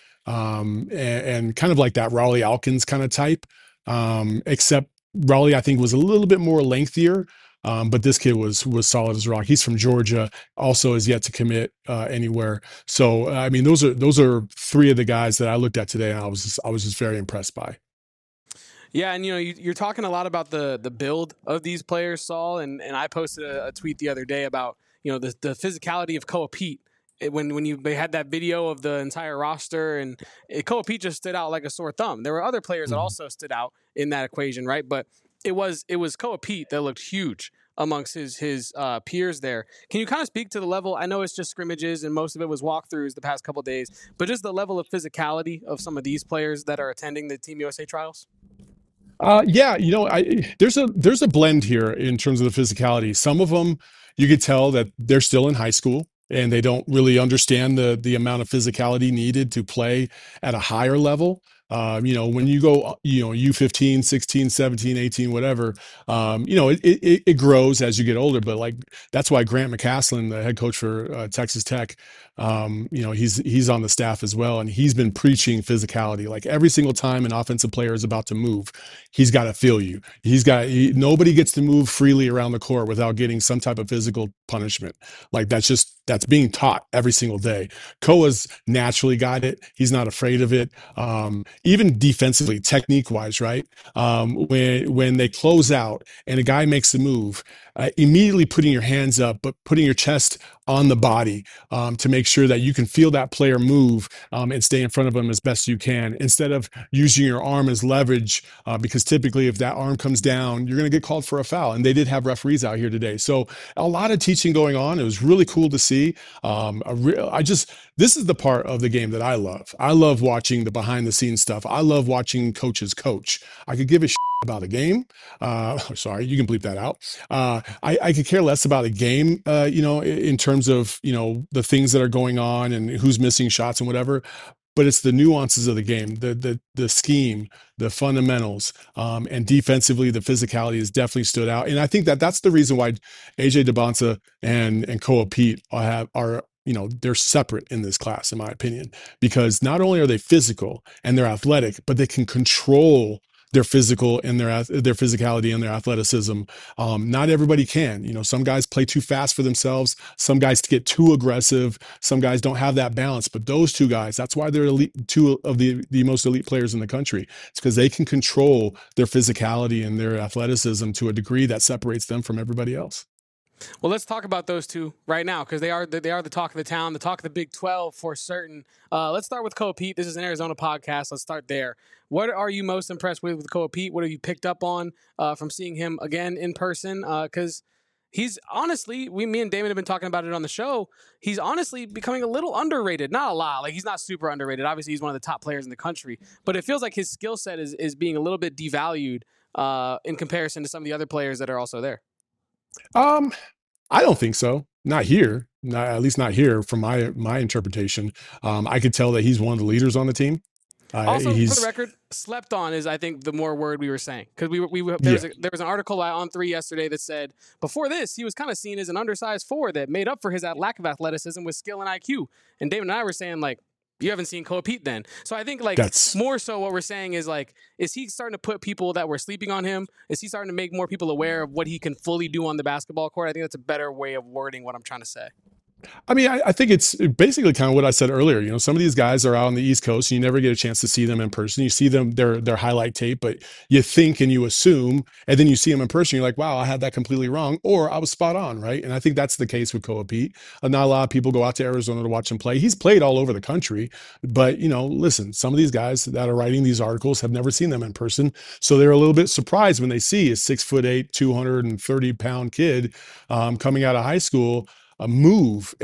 and kind of like that Raleigh Alkins kind of type. Except Raleigh, I think, was a little bit more lengthier. But this kid was solid as rock. He's from Georgia, also has yet to commit anywhere. So I mean, those are three of the guys that I looked at today, and I was just very impressed by. Yeah, and you're talking a lot about the build of these players, Saul, and I posted a tweet the other day about the physicality of Koa Pete. When they had that video of the entire roster, and Koa Pete just stood out like a sore thumb. There were other players that also stood out in that equation, right? But it was Koa Pete that looked huge amongst his peers there. Can you kind of speak to the level? I know it's just scrimmages and most of it was walkthroughs the past couple of days, but just the level of physicality of some of these players that are attending the Team USA trials? Yeah, there's a blend here in terms of the physicality. Some of them you could tell that they're still in high school and they don't really understand the amount of physicality needed to play at a higher level. When you go, U15, 16, 17, 18, whatever, it grows as you get older. But like, that's why Grant McCaslin, the head coach for Texas Tech, he's on the staff as well. And he's been preaching physicality. Like every single time an offensive player is about to move, he's got to feel you. Nobody gets to move freely around the court without getting some type of physical punishment. Like that's being taught every single day. Koa's naturally got it. He's not afraid of it. Even defensively, technique wise, right? When they close out and a guy makes a move, immediately putting your hands up, but putting your chest on the body to make sure that you can feel that player move and stay in front of them as best you can, instead of using your arm as leverage, because typically if that arm comes down, you're going to get called for a foul. And they did have referees out here today. So a lot of teaching going on. It was really cool to see. This is the part of the game that I love. I love watching the behind the scenes stuff. I love watching coaches coach. I could give a shit about a game. Sorry, you can bleep that out. I could care less about a game, in terms of, the things that are going on and who's missing shots and whatever. But it's the nuances of the game, the scheme, the fundamentals, and defensively, the physicality has definitely stood out. And I think that's the reason why AJ Debonsa and Koa Pete are they're separate in this class, in my opinion, because not only are they physical and they're athletic, but they can control their physical and their physicality and their athleticism. Not everybody can. Some guys play too fast for themselves. Some guys get too aggressive. Some guys don't have that balance. But those two guys, that's why they're two of the most elite players in the country. It's because they can control their physicality and their athleticism to a degree that separates them from everybody else. Well, let's talk about those two right now because they are the talk of the town, the talk of the Big 12 for certain. Let's start with Koa Pete. This is an Arizona podcast. Let's start there. What are you most impressed with Koa Pete? What have you picked up on from seeing him again in person? Because he's honestly, me and Damon have been talking about it on the show. He's honestly becoming a little underrated. Not a lot. Like, he's not super underrated. Obviously, he's one of the top players in the country. But it feels like his skill set is being a little bit devalued in comparison to some of the other players that are also there. I don't think so. Not here. At least not here from my interpretation. I could tell that he's one of the leaders on the team. Also, for the record, slept on is, I think, the more word we were saying. Because there was an article on 3 yesterday that said, before this, he was kind of seen as an undersized forward that made up for his lack of athleticism with skill and IQ. And David and I were saying, like, you haven't seen Koa Pete then. So I think, like, that's more so what we're saying is, like, is he starting to put people that were sleeping on him? Is he starting to make more people aware of what he can fully do on the basketball court? I think that's a better way of wording what I'm trying to say. I mean, I think it's basically kind of what I said earlier. You know, some of these guys are out on the East Coast, and you never get a chance to see them in person. You see them, their highlight tape, but you think and you assume, and then you see them in person, you're like, wow, I had that completely wrong, or I was spot on, right? And I think that's the case with Koa Pete. Not a lot of people go out to Arizona to watch him play. He's played all over the country, but, you know, listen, some of these guys that are writing these articles have never seen them in person, so they're a little bit surprised when they see a 6'8", 230-pound kid coming out of high school move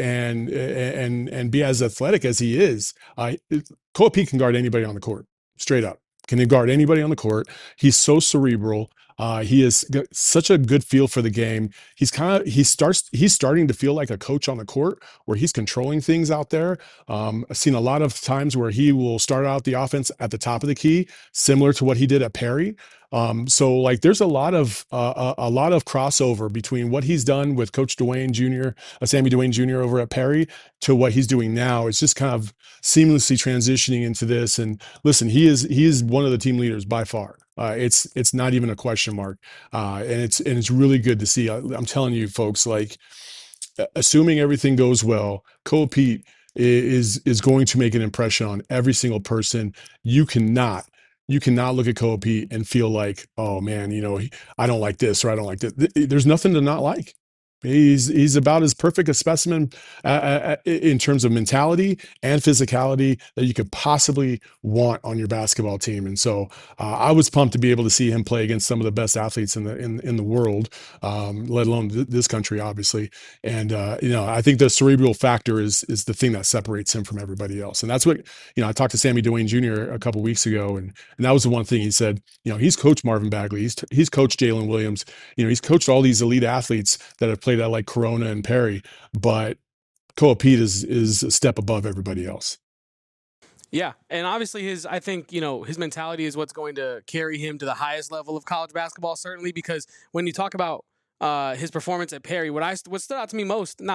and be as athletic as he is. Koa Pete can guard anybody on the court, straight up. Can he guard anybody on the court? He's so cerebral. He has got such a good feel for the game. He's starting to feel like a coach on the court where he's controlling things out there. I've seen a lot of times where he will start out the offense at the top of the key, similar to what he did at Perry. So like there's a lot of crossover between what he's done with Coach Dwayne Jr., Sammy Dwayne Jr. over at Perry to what he's doing now. It's just kind of seamlessly transitioning into this. And listen, he is one of the team leaders by far. It's not even a question mark. And it's really good to see. I'm telling you folks, like, assuming everything goes well, Koa Pete is going to make an impression on every single person. You cannot look at Koa Pete and feel like, oh man, you know, I don't like this or I don't like this. There's nothing to not like. He's about as perfect a specimen in terms of mentality and physicality that you could possibly want on your basketball team. And so I was pumped to be able to see him play against some of the best athletes in the world, let alone this country, obviously. And you know, I think the cerebral factor is the thing that separates him from everybody else. And that's what, you know, I talked to Sammy Dwayne Jr. a couple weeks ago, and that was the one thing he said. You know, he's coached Marvin Bagley, he's coached Jalen Williams, you know, he's coached all these elite athletes that have played at like Corona and Perry, but Koa Pete is a step above everybody else. Yeah, and obviously I think, you know, his mentality is what's going to carry him to the highest level of college basketball, certainly, because when you talk about his performance at Perry, what stood out to me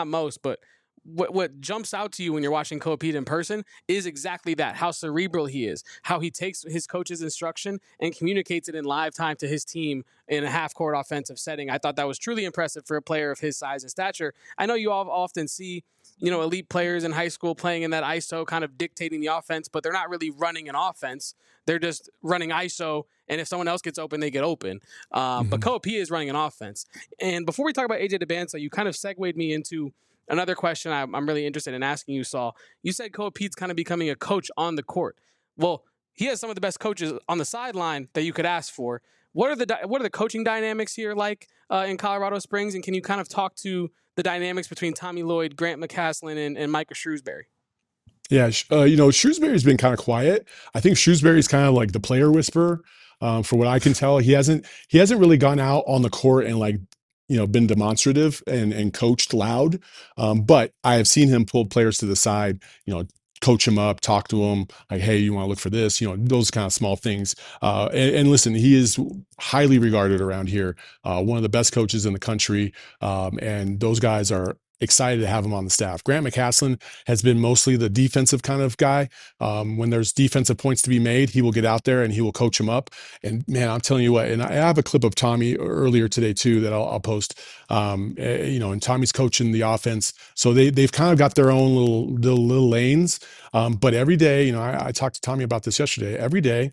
what jumps out to you when you're watching Koa Pete in person is exactly that, how cerebral he is, how he takes his coach's instruction and communicates it in live time to his team in a half-court offensive setting. I thought that was truly impressive for a player of his size and stature. I know you all often see, you know, elite players in high school playing in that ISO, kind of dictating the offense, but they're not really running an offense. They're just running ISO, and if someone else gets open, they get open. But Koa Pete is running an offense. And before we talk about AJ Dybantsa, you kind of segued me into another question I'm really interested in asking you, Saul. You said Koa Pete's kind of becoming a coach on the court. Well, he has some of the best coaches on the sideline that you could ask for. What are the coaching dynamics here like in Colorado Springs? And can you kind of talk to the dynamics between Tommy Lloyd, Grant McCasland, and Micah Shrewsbury? Yeah, you know, Shrewsbury's been kind of quiet. I think Shrewsbury's kind of like the player whisperer. For what I can tell, he hasn't really gone out on the court and, like, you know, been demonstrative and coached loud. But I have seen him pull players to the side, you know, coach him up, talk to him, like, hey, you want to look for this, you know, those kind of small things. And listen, he is highly regarded around here, one of the best coaches in the country. And those guys are excited to have him on the staff. Grant McCasland has been mostly the defensive kind of guy. When there's defensive points to be made, he will get out there and he will coach him up. And man, I'm telling you what, and I have a clip of Tommy earlier today too that I'll post. You know, and Tommy's coaching the offense, so they've kind of got their own little lanes. But every day, you know, I talked to Tommy about this yesterday. Every day,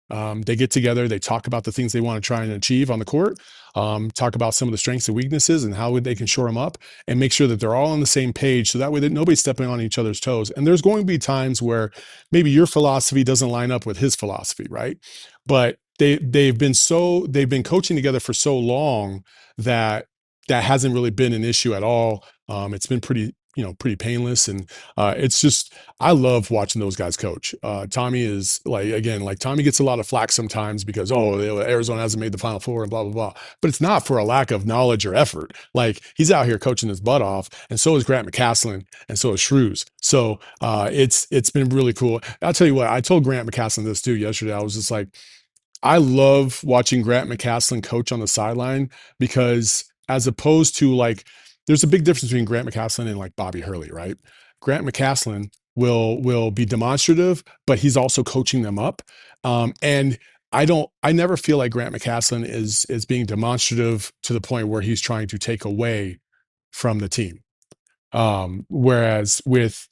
They get together, they talk about the things they want to try and achieve on the court, talk about some of the strengths and weaknesses and how they can shore them up, and make sure that they're all on the same page so that way that nobody's stepping on each other's toes. And there's going to be times where maybe your philosophy doesn't line up with his philosophy, right? But they've been coaching together for so long that hasn't really been an issue at all. It's been pretty painless. And it's just, I love watching those guys coach. Tommy is Tommy gets a lot of flack sometimes because, Arizona hasn't made the Final Four and blah, blah, blah. But it's not for a lack of knowledge or effort. Like, he's out here coaching his butt off, and so is Grant McCasland, and so is Shrews. So it's been really cool. I'll tell you what, I told Grant McCasland this too yesterday. I was just like, I love watching Grant McCasland coach on the sideline, because as opposed to there's a big difference between Grant McCasland and like Bobby Hurley, right? Grant McCasland will be demonstrative, but he's also coaching them up. And I never feel like Grant McCasland is being demonstrative to the point where he's trying to take away from the team. Whereas with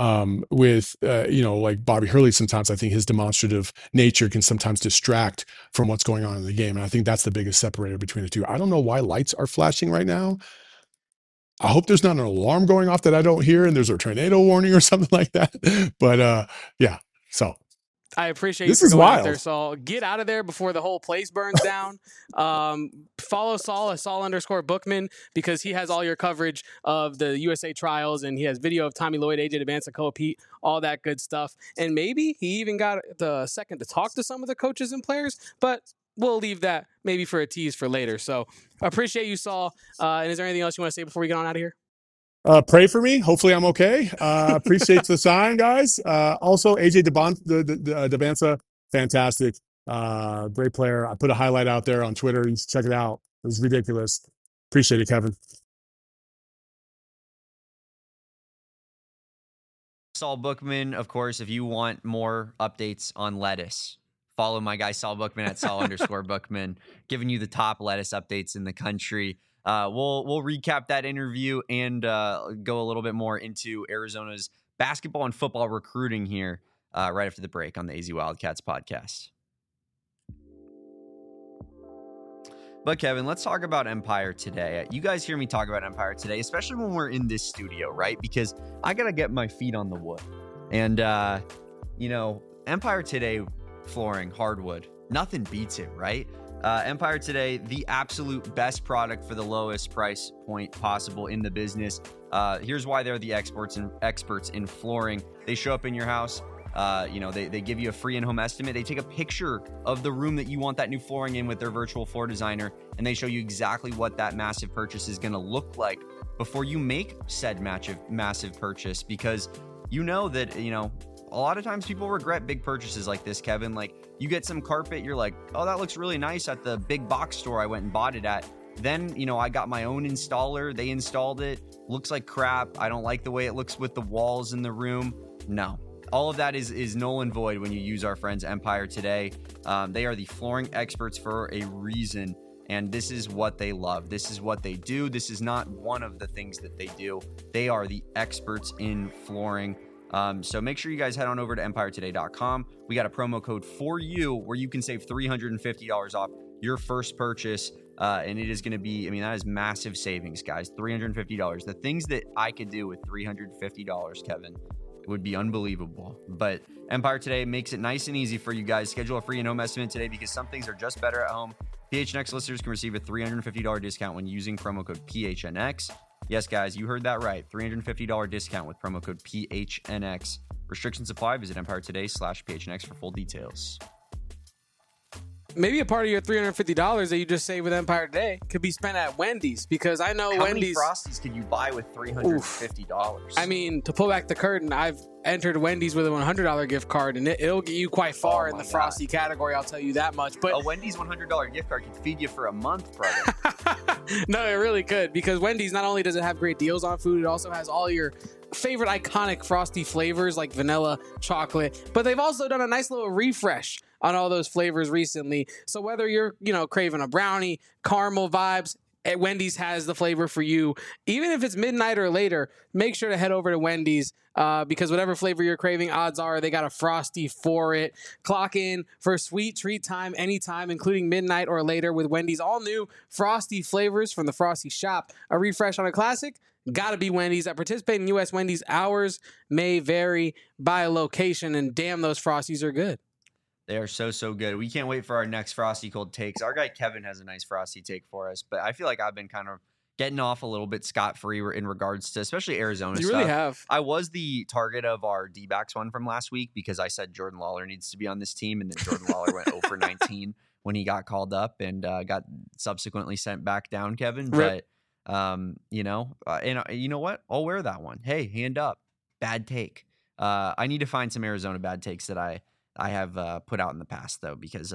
like Bobby Hurley, sometimes I think his demonstrative nature can sometimes distract from what's going on in the game. And I think that's the biggest separator between the two. I don't know why lights are flashing right now. I hope there's not an alarm going off that I don't hear and there's a tornado warning or something like that. But yeah, so. I appreciate this you is for going wild. out there, Saul. Get out of there before the whole place burns down. Follow Saul at Saul_Bookman, because he has all your coverage of the USA trials, and he has video of Tommy Lloyd, AJ Dybantsa, Koa Pete, all that good stuff. And maybe he even got the second to talk to some of the coaches and players, but we'll leave that maybe for a tease for later. So I appreciate you, Saul. And is there anything else you want to say before we get on out of here? Pray for me. Hopefully I'm okay. Appreciate the sign, guys. Also, AJ Dybantsa, fantastic. Great player. I put a highlight out there on Twitter. You should check it out. It was ridiculous. Appreciate it, Kevin. Saul Bookman, of course, if you want more updates on lettuce, follow my guy Saul Bookman at Saul_Bookman, giving you the top lettuce updates in the country. We'll recap that interview and go a little bit more into Arizona's basketball and football recruiting here right after the break on the AZ Wildcats podcast. But Kevin, let's talk about Empire today. You guys hear me talk about Empire today, especially when we're in this studio, right? Because I got to get my feet on the wood. And, Empire today flooring, hardwood, nothing beats it, right? Empire today, the absolute best product for the lowest price point possible in the business. Here's why they're the experts in flooring. They show up in your house. They give you a free in-home estimate. They take a picture of the room that you want that new flooring in with their virtual floor designer, and they show you exactly what that massive purchase is going to look like before you make said massive purchase, because that, a lot of times people regret big purchases like this, Kevin. Like, you get some carpet, you're like, oh, that looks really nice at the big box store I went and bought it at. Then, I got my own installer. They installed it. Looks like crap. I don't like the way it looks with the walls in the room. No. All of that is null and void when you use our friends Empire today. They are the flooring experts for a reason, and this is what they love. This is what they do. This is not one of the things that they do. They are the experts in flooring. So make sure you guys head on over to EmpireToday.com. We got a promo code for you where you can save $350 off your first purchase. And it is going to be, that is massive savings, guys. $350. The things that I could do with $350, Kevin, would be unbelievable. But Empire Today makes it nice and easy for you guys. Schedule a free in-home estimate today, because some things are just better at home. PHNX listeners can receive a $350 discount when using promo code PHNX. Yes, guys, you heard that right. $350 discount with promo code PHNX. Restrictions apply. Visit EmpireToday.com/PHNX for full details. Maybe a part of your $350 that you just saved with Empire Today could be spent at Wendy's, because I know How Wendy's. How many Frosties could you buy with $350? To pull back the curtain, I've entered Wendy's with a $100 gift card, and it'll get you quite far in the Frosty category. I'll tell you that much. But a Wendy's $100 gift card could feed you for a month, brother. No, it really could, because Wendy's, not only does it have great deals on food, it also has all your favorite iconic Frosty flavors like vanilla, chocolate, but they've also done a nice little refresh on all those flavors recently. So whether you're, craving a brownie, caramel vibes, Wendy's has the flavor for you. Even if it's midnight or later, make sure to head over to Wendy's because whatever flavor you're craving, odds are they got a Frosty for it. Clock in for sweet treat time anytime, including midnight or later with Wendy's all new Frosty flavors from the Frosty shop. A refresh on a classic? Gotta be Wendy's. At participating U.S. Wendy's, hours may vary by location, and damn, those Frosties are good. They are so good. We can't wait for our next Frosty Cold takes. Our guy Kevin has a nice Frosty take for us, but I feel like I've been kind of getting off a little bit scot-free in regards to especially Arizona You stuff. really have. I was the target of our D-backs one from last week because I said Jordan Lawler needs to be on this team, and then Jordan Lawler went 0 for 19 when he got called up and got subsequently sent back down, Kevin. Rip. But, you know what? I'll wear that one. Hey, hand up. Bad take. I need to find some Arizona bad takes that I have put out in the past, though, because,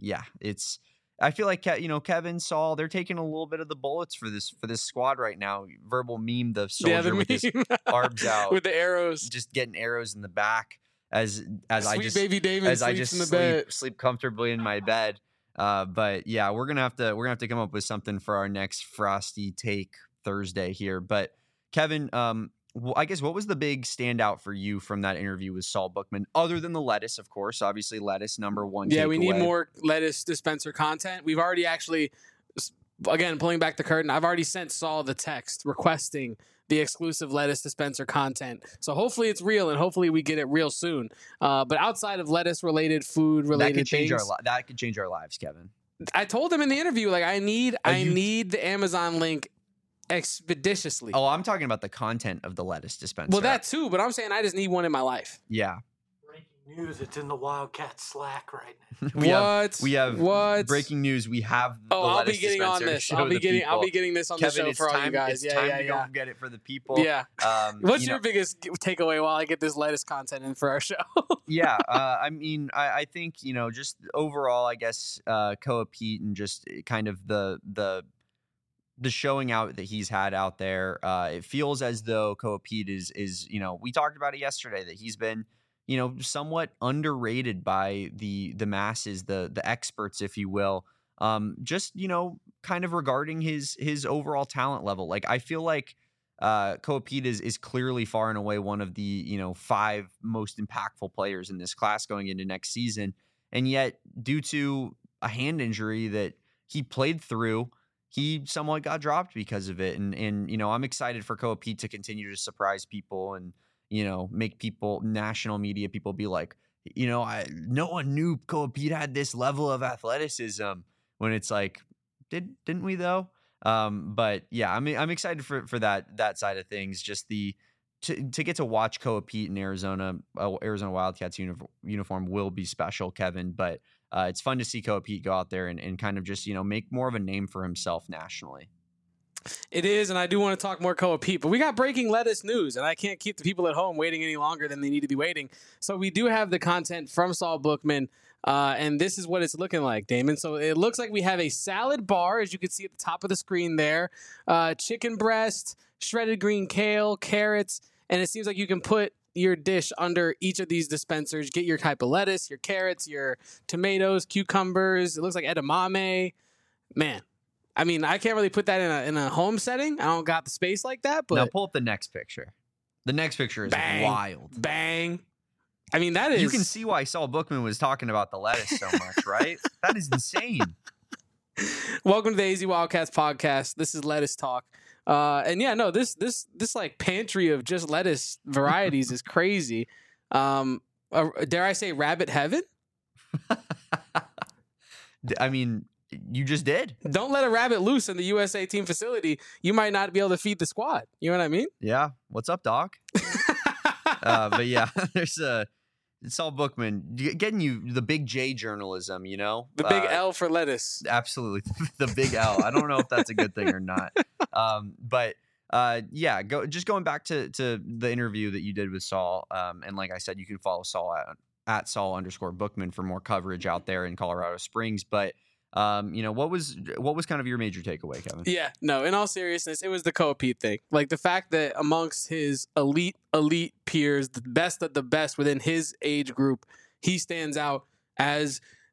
I feel like, Kevin, Saul, they're taking a little bit of the bullets for this squad right now. Verbal meme, the soldier with his arms out. With the arrows. Just getting arrows in the back as I just baby David sleeps in the bed. sleep comfortably in my bed. But yeah, we're gonna have to come up with something for our next Frosty Take Thursday here. But Kevin, I guess what was the big standout for you from that interview with Saul Bookman, other than the lettuce, of course? Obviously, lettuce number one. Yeah, we need takeaway. more lettuce dispenser content. We've already actually, again, pulling back the curtain, I've already sent Saul the text requesting the exclusive lettuce dispenser content. So hopefully it's real, and hopefully we get it real soon. But outside of lettuce-related, food-related things, that could change our lives, Kevin. I told him in the interview, like, I need the Amazon link expeditiously. Oh, I'm talking about the content of the lettuce dispenser. Well, that too, but I'm saying I just need one in my life. Yeah. Breaking news, it's in the Wildcat Slack right now. We have breaking news. We have the I'll be lettuce getting on dispenser to this. show I'll be the getting people. this on Kevin, the show for all you guys. It's time to go get it for the people. Yeah. What's your biggest takeaway while I get this lettuce content in for our show? Yeah. I mean, I think, just overall, I guess, Koa Pete and just kind of the showing out that he's had out there, it feels as though Koa Pete is, we talked about it yesterday, that he's been, somewhat underrated by the masses, the experts, if you will. Just, kind of regarding his overall talent level. Like, I feel like Koa Pete is clearly far and away one of the, 5 most impactful players in this class going into next season. And yet, due to a hand injury that he played through, he somewhat got dropped because of it. And I'm excited for Koa Pete to continue to surprise people and, make people, national media people, be like, no one knew Koa Pete had this level of athleticism, when it's like, didn't we though? But yeah, I'm excited for that side of things. Just to get to watch Koa Pete in Arizona Wildcats uniform will be special, Kevin. But it's fun to see Koa Pete go out there and kind of just, make more of a name for himself nationally. It is, and I do want to talk more Koa Pete, but we got breaking lettuce news, and I can't keep the people at home waiting any longer than they need to be waiting. So we do have the content from Saul Bookman, and this is what it's looking like, Damon. So it looks like we have a salad bar, as you can see at the top of the screen there, chicken breast, shredded green kale, carrots, and it seems like you can put your dish under each of these dispensers. Get your type of lettuce, your carrots, your tomatoes, cucumbers. It looks like edamame. Man, I mean, I can't really put that in a home setting. I don't got the space like that. But now pull up the next picture. The next picture is wild. Bang. I mean, that is... You can see why Saul Bookman was talking about the lettuce so much, right? That is insane. Welcome to the AZ Wildcats podcast. This is Lettuce Talk. And yeah, no, this like pantry of just lettuce varieties is crazy. Dare I say rabbit heaven? I mean, you just did. Don't let a rabbit loose in the USA team facility. You might not be able to feed the squad. You know what I mean? Yeah. What's up, Doc? But yeah, there's Saul Bookman getting you the big J journalism, The big L for lettuce. Absolutely. The big L. I don't know if that's a good thing or not. But yeah, going back to the interview that you did with Saul. And like I said, you can follow Saul at Saul_Bookman for more coverage out there in Colorado Springs. But what was kind of your major takeaway, Kevin? Yeah, no, in all seriousness, it was the Koa Pete thing. Like the fact that amongst his elite peers, the best of the best within his age group, he stands out as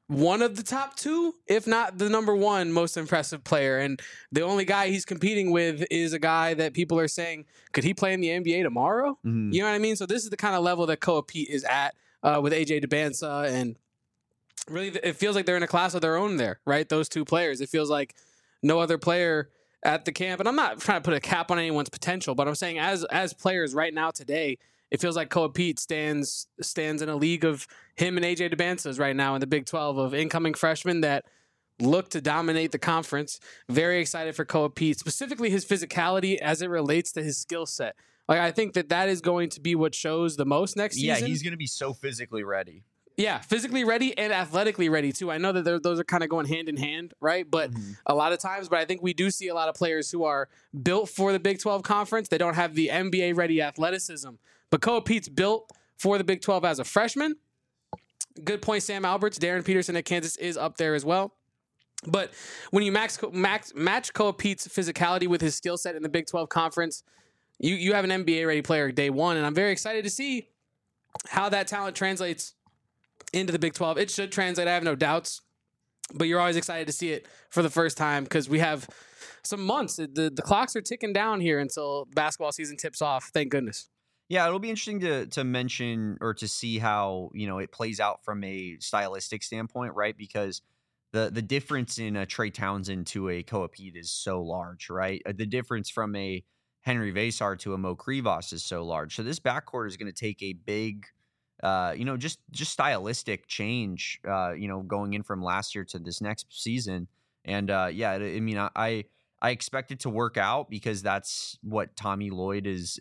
one of the top two, if not the number one most impressive player. And the only guy he's competing with is a guy that people are saying, could he play in the NBA tomorrow? Mhm. You know what I mean? So this is the kind of level that Koa Pete is at with AJ Debinsa. And really, it feels like they're in a class of their own there, right? Those two players. It feels like no other player at the camp. And I'm not trying to put a cap on anyone's potential, but I'm saying as players right now today, it feels like Koa Pete stands in a league of him and AJ Debinsa's right now in the Big 12 of incoming freshmen that look to dominate the conference. Very excited for Koa Pete, specifically his physicality as it relates to his skill set. Like, I think that is going to be what shows the most next season. Yeah, he's going to be so physically ready. Yeah, physically ready and athletically ready too. I know that those are kind of going hand in hand, right? But a lot of times, I think we do see a lot of players who are built for the Big 12 conference. They don't have the NBA ready athleticism. But Koa Pete's built for the Big 12 as a freshman. Good point, Sam Alberts. Darren Peterson at Kansas is up there as well. But when you match Koa Pete's physicality with his skill set in the Big 12 conference, you have an NBA ready player day one. And I'm very excited to see how that talent translates into the Big 12. It should translate, I have no doubts, but you're always excited to see it for the first time because we have some months. The clocks are ticking down here until basketball season tips off. Thank goodness. Yeah, it'll be interesting to mention or to see how, it plays out from a stylistic standpoint, right? Because the difference in a Trey Townsend to a Koa Pete is so large, right? The difference from a Henry Vesar to a Mo Krivas is so large. So this backcourt is going to take a big just stylistic change, going in from last year to this next season. And I expect it to work out because that's what Tommy Lloyd is,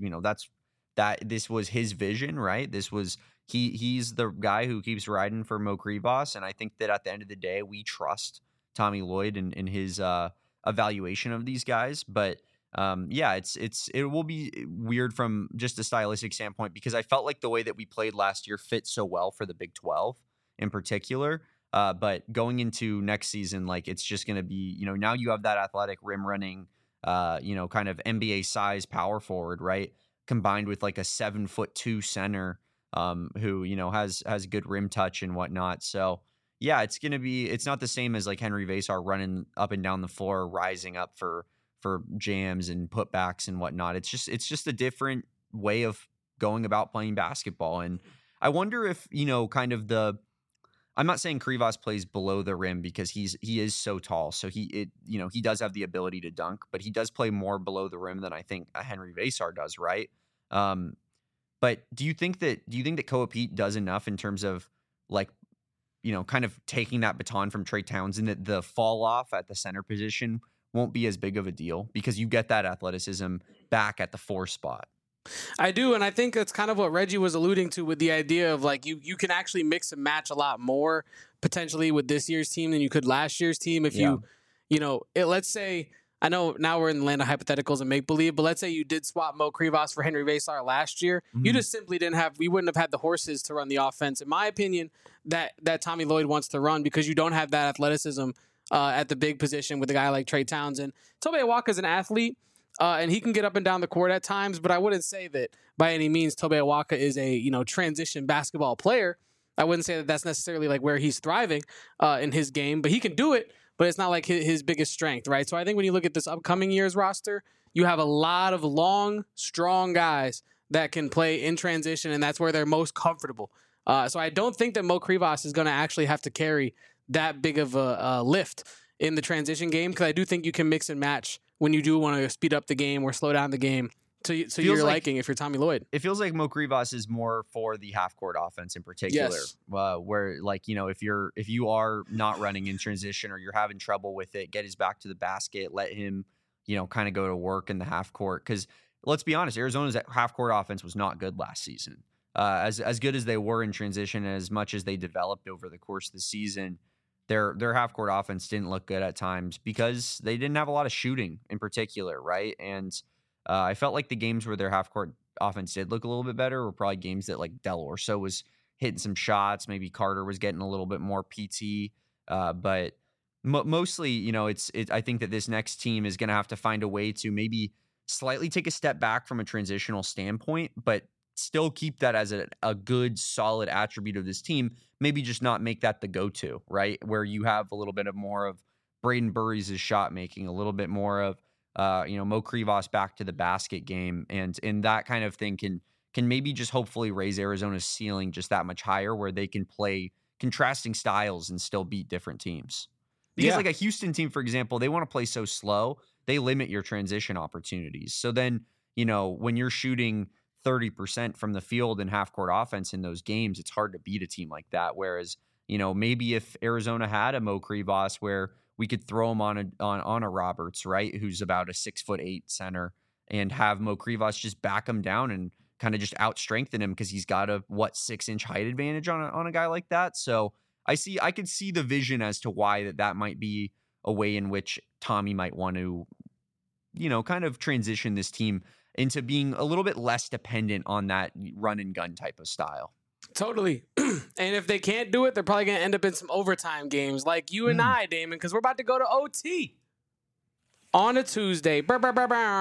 this was his vision, right? This was, he's the guy who keeps riding for Mo Krivas. And I think that at the end of the day, we trust Tommy Lloyd in his evaluation of these guys. But it will be weird from just a stylistic standpoint because I felt like the way that we played last year fit so well for the Big 12 in particular. But going into next season, like it's just going to be, now you have that athletic rim running, kind of NBA size power forward, right? Combined with like a 7'2" center, who, has good rim touch and whatnot. So yeah, it's not the same as like Henry Vesar running up and down the floor, rising up for jams and putbacks and whatnot. It's just a different way of going about playing basketball. And I wonder if, I'm not saying Krivas plays below the rim because he is so tall. So he does have the ability to dunk, but he does play more below the rim than I think a Henry Vesar does. Right. But do you think that Koa Pete does enough in terms of like, kind of taking that baton from Trey Townsend, that the fall off at the center position won't be as big of a deal because you get that athleticism back at the 4 spot? I do, and I think that's kind of what Reggie was alluding to with the idea of like you can actually mix and match a lot more potentially with this year's team than you could last year's team if let's say, I know now we're in the land of hypotheticals and make believe, but let's say you did swap Mo Krivas for Henry Vesar last year. Mm-hmm. You just simply we wouldn't have had the horses to run the offense, in my opinion, that Tommy Lloyd wants to run because you don't have that athleticism at the big position with a guy like Trey Townsend. Tobe Awaka is an athlete, and he can get up and down the court at times, but I wouldn't say that by any means Tobe Awaka is a transition basketball player. I wouldn't say that that's necessarily like where he's thriving in his game, but he can do it, but it's not like his biggest strength, right? So I think when you look at this upcoming year's roster, you have a lot of long, strong guys that can play in transition, and that's where they're most comfortable. So I don't think that Mo Krivas is going to actually have to carry that big of a lift in the transition game because I do think you can mix and match when you do want to speed up the game or slow down the game to your liking if you're Tommy Lloyd. It feels like Mo Krivas is more for the half-court offense in particular, yes. Where like, if you are not running in transition or you're having trouble with it, get his back to the basket, let him, kind of go to work in the half-court. Because let's be honest, Arizona's half-court offense was not good last season. As good as they were in transition and as much as they developed over the course of the season, their half-court offense didn't look good at times because they didn't have a lot of shooting in particular, right? And I felt like the games where their half-court offense did look a little bit better were probably games that like Del Orso was hitting some shots, maybe Carter was getting a little bit more PT, but mostly, I think that this next team is going to have to find a way to maybe slightly take a step back from a transitional standpoint, but still keep that as a good, solid attribute of this team. Maybe just not make that the go-to, right? Where you have a little bit of more of Braden Burries' shot making, a little bit more of Mo Krivas back to the basket game, and that kind of thing can maybe just hopefully raise Arizona's ceiling just that much higher, where they can play contrasting styles and still beat different teams. Because like a Houston team, for example, they want to play so slow, they limit your transition opportunities. So then, when you're shooting 30% from the field in half-court offense in those games, it's hard to beat a team like that. Whereas, maybe if Arizona had a Mo Krivas where we could throw him on a Roberts, right, who's about a 6'8" center, and have Mo Krivas just back him down and kind of just out-strengthen him because he's got a 6-inch height advantage on a guy like that. So I could see the vision as to why that might be a way in which Tommy might want to, kind of transition this team into being a little bit less dependent on that run and gun type of style. Totally. And if they can't do it, they're probably going to end up in some overtime games like you and I, Damon, because we're about to go to OT on a Tuesday. Welcome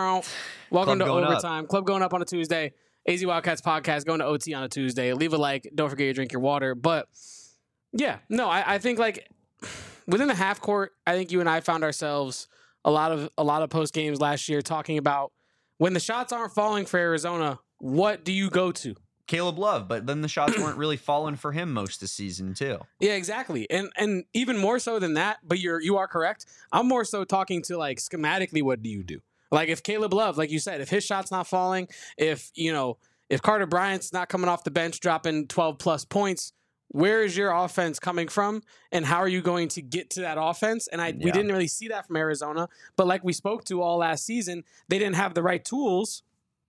to Overtime. Club going up on a Tuesday. AZ Wildcats podcast going to OT on a Tuesday. Leave a like. Don't forget to drink your water. But yeah, no, I think like within the half court, I think you and I found ourselves a lot of post games last year talking about when the shots aren't falling for Arizona, what do you go to? Caleb Love, but then the shots weren't really falling for him most of the season too. Yeah, exactly. And even more so than that, but you are correct. I'm more so talking to like schematically, what do you do? Like if Caleb Love, like you said, if his shot's not falling, if Carter Bryant's not coming off the bench dropping 12 plus points, where is your offense coming from, and how are you going to get to that offense? And we didn't really see that from Arizona, but like we spoke to all last season, they didn't have the right tools.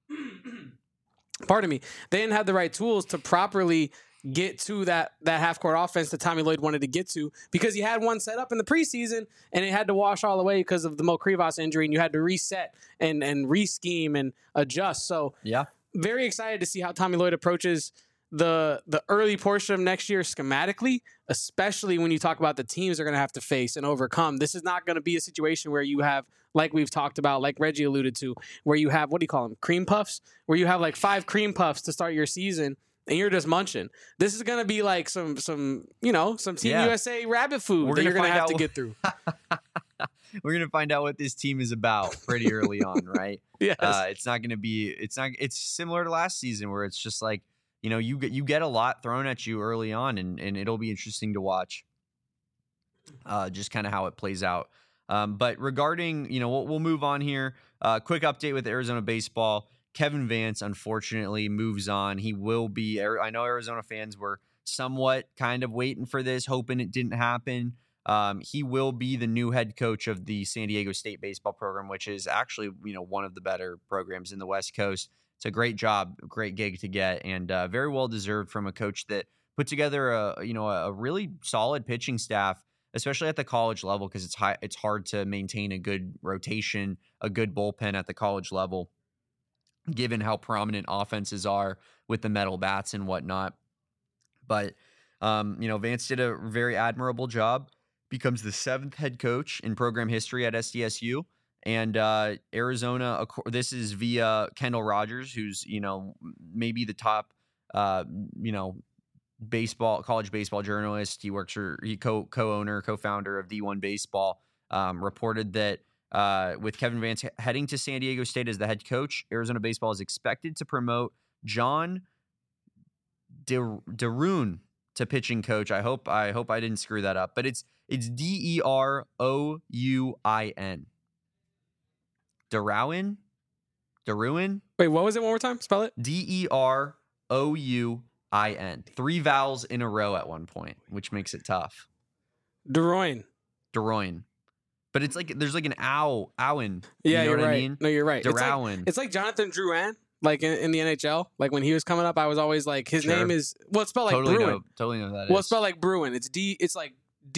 Pardon me. They didn't have the right tools to properly get to that half-court offense that Tommy Lloyd wanted to get to, because he had one set up in the preseason and it had to wash all the way because of the Mo Krivas injury, and you had to reset and re-scheme and adjust. So very excited to see how Tommy Lloyd approaches the early portion of next year schematically, especially when you talk about the teams they're going to have to face and overcome. This is not going to be a situation where you have, like we've talked about, like Reggie alluded to, where you have, what do you call them, cream puffs, where you have like 5 cream puffs to start your season and you're just munching. This is going to be like some Team USA rabbit food that you're going to have to get through. We're going to find out what this team is about pretty early on, right? Yes. It's similar to last season where it's just like, you get a lot thrown at you early on, and it'll be interesting to watch just kind of how it plays out. But regarding, we'll move on here. Quick update with Arizona baseball. Kevin Vance, unfortunately, moves on. He will be, I know Arizona fans were somewhat kind of waiting for this, hoping it didn't happen. He will be the new head coach of the San Diego State baseball program, which is actually, one of the better programs in the West Coast. It's a great job, great gig to get, and very well deserved from a coach that put together a really solid pitching staff, especially at the college level, because it's hard to maintain a good rotation, a good bullpen at the college level, given how prominent offenses are with the metal bats and whatnot. But Vance did a very admirable job, becomes the 7th head coach in program history at SDSU. And Arizona, this is via Kendall Rogers, who's, maybe the top, college baseball journalist. He works co-founder of D1 Baseball, reported that with Kevin Vance heading to San Diego State as the head coach, Arizona baseball is expected to promote John Deroun to pitching coach. I hope I didn't screw that up, but it's Derouin. Derouin? Wait, what was it? One more time? Spell it. Derouin. 3 vowels in a row at one point, which makes it tough. Deroin. But it's like there's like an owen. Yeah, you know you're what right. I mean? No, you're right. Derouin. It's like Jonathan Drouin, like in the NHL. Like when he was coming up, I was always like, his name is, well, it's spelled like Bruin. Totally know that. Well, it's spelled like Bruin. It's like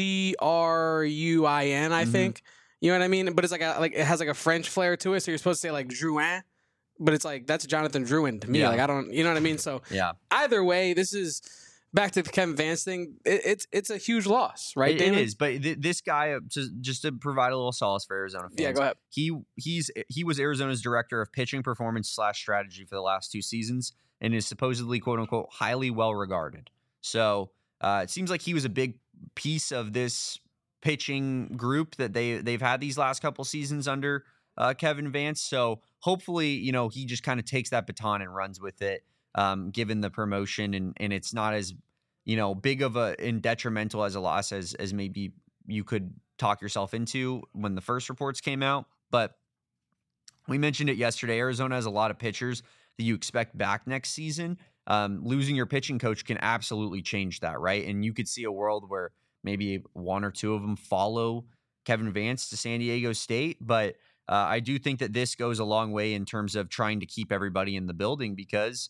Druin, I think. You know what I mean? But it's like it has like a French flair to it. So you're supposed to say like Drouin, but it's like that's Jonathan Drouin to me. Yeah. Like I don't, you know what I mean? So yeah. Either way, this is back to the Kevin Vance thing, it's a huge loss, right? It is, but this guy, just to provide a little solace for Arizona fans. Yeah, go ahead. He was Arizona's director of pitching performance / strategy for the last 2 seasons and is supposedly, quote unquote, highly well regarded. So it seems like he was a big piece of this pitching group that they've had these last couple seasons under Kevin Vance. So hopefully, he just kind of takes that baton and runs with it, given the promotion, and it's not as big of and detrimental as a loss as maybe you could talk yourself into when the first reports came out. But we mentioned it yesterday. Arizona has a lot of pitchers that you expect back next season. Losing your pitching coach can absolutely change that, right? And you could see a world where maybe 1 or 2 of them follow Kevin Vance to San Diego State. But I do think that this goes a long way in terms of trying to keep everybody in the building because,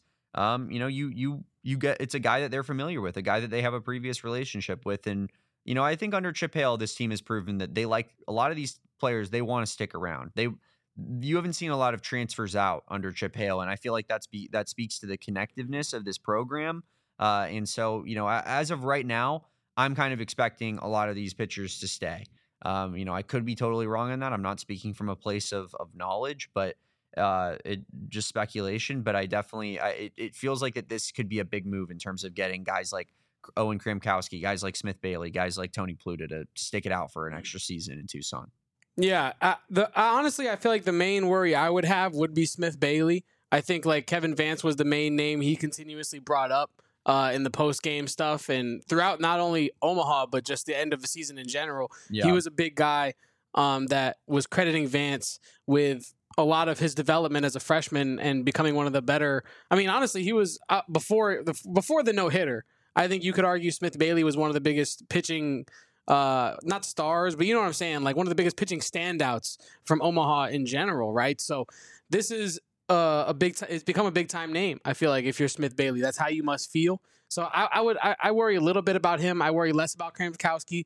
you get, it's a guy that they're familiar with, a guy that they have a previous relationship with. And, I think under Chip Hale, this team has proven that they like a lot of these players. They want to stick around. You haven't seen a lot of transfers out under Chip Hale. And I feel like that speaks to the connectiveness of this program. And so, as of right now, I'm kind of expecting a lot of these pitchers to stay. I could be totally wrong on that. I'm not speaking from a place of knowledge, but it just speculation. But I definitely, it feels like that this could be a big move in terms of getting guys like Owen Kramkowski, guys like Smith Bailey, guys like Tony Pluta to stick it out for an extra season in Tucson. Yeah, honestly, I feel like the main worry I would have would be Smith Bailey. I think like Kevin Vance was the main name he continuously brought up in the post-game stuff and throughout not only Omaha, but just the end of the season in general. Yeah. He was a big guy that was crediting Vance with a lot of his development as a freshman and becoming one of the better. I mean, honestly, he was before the no-hitter. I think you could argue Smith Bailey was one of the biggest pitching, not stars, but you know what I'm saying? Like one of the biggest pitching standouts from Omaha in general, right? So this is it's become a big time name. I feel like if you're Smith Bailey, that's how you must feel. So I worry a little bit about him. I worry less about Kramkowski.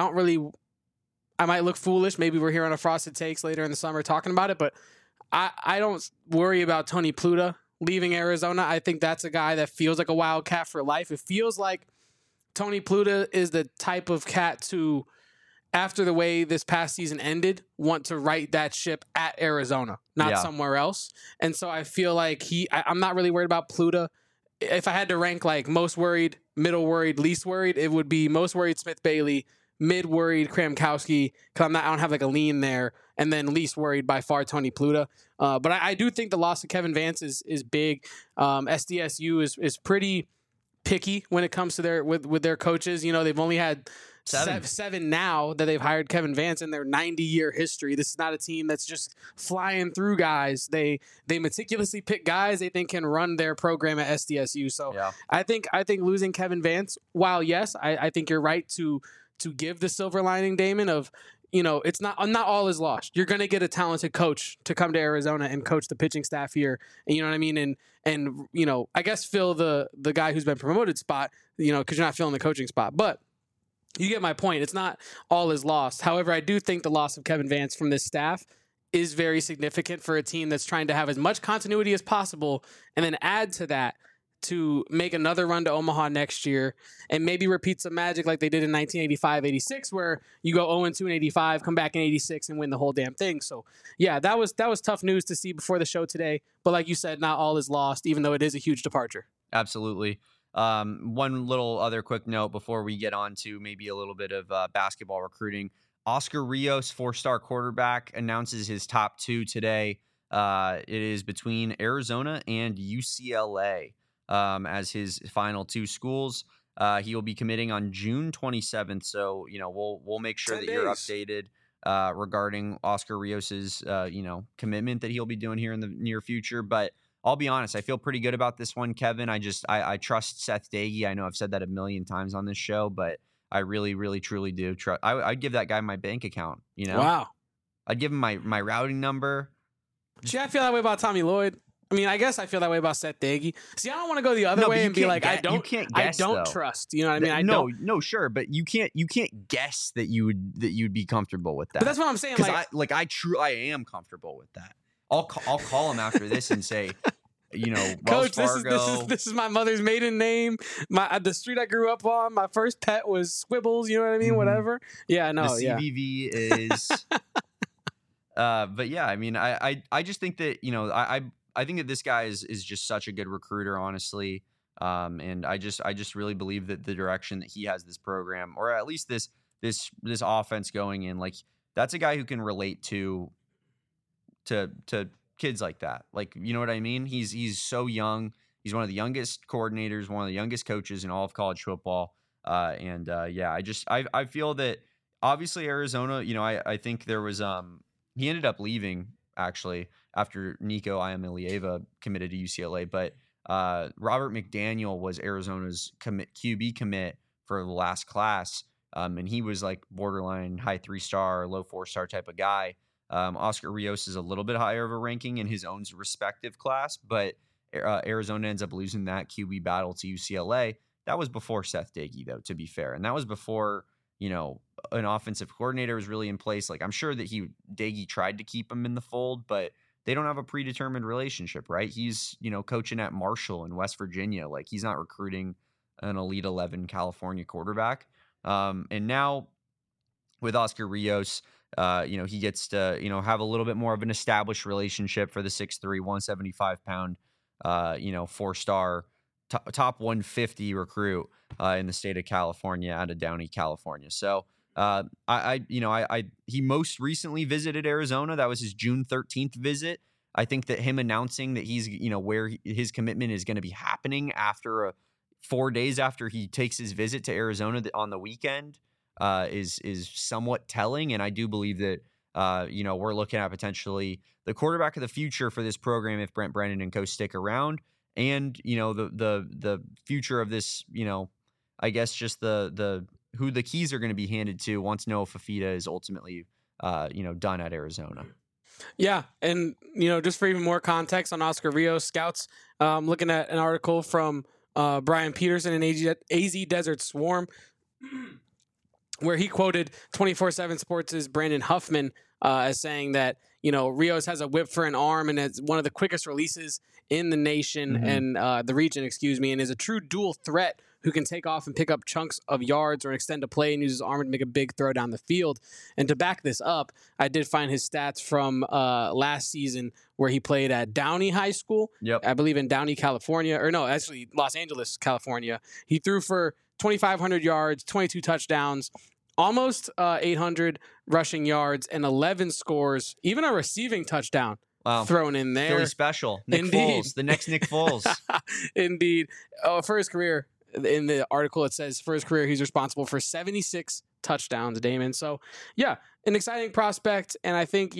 I might look foolish. Maybe we're here on a Frosted Takes later in the summer talking about it, but I don't worry about Tony Pluta leaving Arizona. I think that's a guy that feels like a Wildcat for life. It feels like Tony Pluta is the type of cat to, after the way this past season ended, want to right that ship at Arizona, not somewhere else. And so I feel like I'm not really worried about Pluta. If I had to rank like most worried, middle worried, least worried, it would be most worried Smith Bailey, mid worried Kramkowski, because I don't have like a lean there, and then least worried by far Tony Pluta. But I do think the loss of Kevin Vance is big. SDSU is pretty picky when it comes to their coaches. They've only had seven now that they've hired Kevin Vance in their 90-year history. This is not a team that's just flying through guys. They meticulously pick guys they think can run their program at SDSU. So I think losing Kevin Vance, while yes, I think you're right to give the silver lining, Damon, of it's not all is lost. You're going to get a talented coach to come to Arizona and coach the pitching staff here. And you know what I mean? And I guess fill the guy who's been promoted spot, because you're not filling the coaching spot. But you get my point. It's not all is lost. However, I do think the loss of Kevin Vance from this staff is very significant for a team that's trying to have as much continuity as possible and then add to that to make another run to Omaha next year and maybe repeat some magic like they did in 1985-86, where you go 0-2 in 85, come back in 86 and win the whole damn thing. So yeah, that was tough news to see before the show today. But like you said, not all is lost, even though it is a huge departure. Absolutely. One little other quick note before we get on to maybe a little bit of basketball recruiting. Oscar Rios, 4-star quarterback, announces his top 2 today. It is between Arizona and UCLA. As his final 2 schools. He will be committing on June 27th. So, we'll make sure that you're updated regarding Oscar Rios's, commitment that he'll be doing here in the near future. But I'll be honest, I feel pretty good about this one, Kevin. I trust Seth Dagey. I know I've said that a million times on this show, but I really, really, truly do trust. I'd give that guy my bank account, Wow. I'd give him my routing number. See, I feel that way about Tommy Lloyd. I mean, I guess I feel that way about Seth Dagey. See, I don't want to go the other way and be like, I don't trust. You know what I mean? No, sure, but you can't guess that you'd be comfortable with that. But that's what I'm saying. Because I am comfortable with that. I'll call him after this and say, Wells Coach, Fargo. this is my mother's maiden name. The street I grew up on. My first pet was Squibbles. You know what I mean? Mhm. Whatever. Yeah, no, The yeah. CVV is. But yeah, I mean, I just think that I think that this guy is just such a good recruiter, honestly. And I just really believe that the direction that he has this program, or at least this offense going in, like that's a guy who can relate to kids like that. Like, you know what I mean? He's so young. He's one of the youngest coordinators, one of the youngest coaches in all of college football. Yeah, I feel that obviously Arizona, I think there was he ended up leaving actually after Nico Iamaleava committed to UCLA, but Robert McDaniel was Arizona's QB commit for the last class. And he was like borderline high 3-star, low 4-star type of guy. Oscar Rios is a little bit higher of a ranking in his own respective class, but Arizona ends up losing that QB battle to UCLA. That was before Seth Doege, though, to be fair. And that was before, an offensive coordinator was really in place. Like, I'm sure that Doege tried to keep him in the fold, but they don't have a predetermined relationship, right? He's, coaching at Marshall in West Virginia. Like, he's not recruiting an Elite 11 California quarterback. And now with Oscar Rios, he gets to, have a little bit more of an established relationship for the 6'3", 175-pound, 4-star top 150 recruit in the state of California, out of Downey, California. So he most recently visited Arizona. That was his June 13th visit. I think that him announcing that he's, where his commitment is going to be happening after 4 days after he takes his visit to Arizona on the weekend is somewhat telling. And I do believe that, we're looking at potentially the quarterback of the future for this program if Brent Brennan and co stick around. And, the future of this, I guess just the who the keys are going to be handed to once Noah Fifita is ultimately, done at Arizona. Yeah, and just for even more context on Oscar Rios, scouts, looking at an article from Brian Peterson in AZ Desert Swarm, where he quoted 24/7 Sports' Brandon Huffman as saying that Rios has a whip for an arm and is one of the quickest releases in the nation and the region, and is a true dual threat who can take off and pick up chunks of yards or extend a play and use his arm to make a big throw down the field. And to back this up, I did find his stats from last season where he played at Downey High School, I believe in Downey, California, or no, actually Los Angeles, California. He threw for 2,500 yards, 22 touchdowns, almost 800 rushing yards, and 11 scores, even a receiving touchdown. Wow. Thrown in there. Philly special. Nick Foles, the next Nick Foles. Indeed. For his career, in the article, it says for his career, he's responsible for 76 touchdowns, Damon. So, yeah, an exciting prospect. And I think,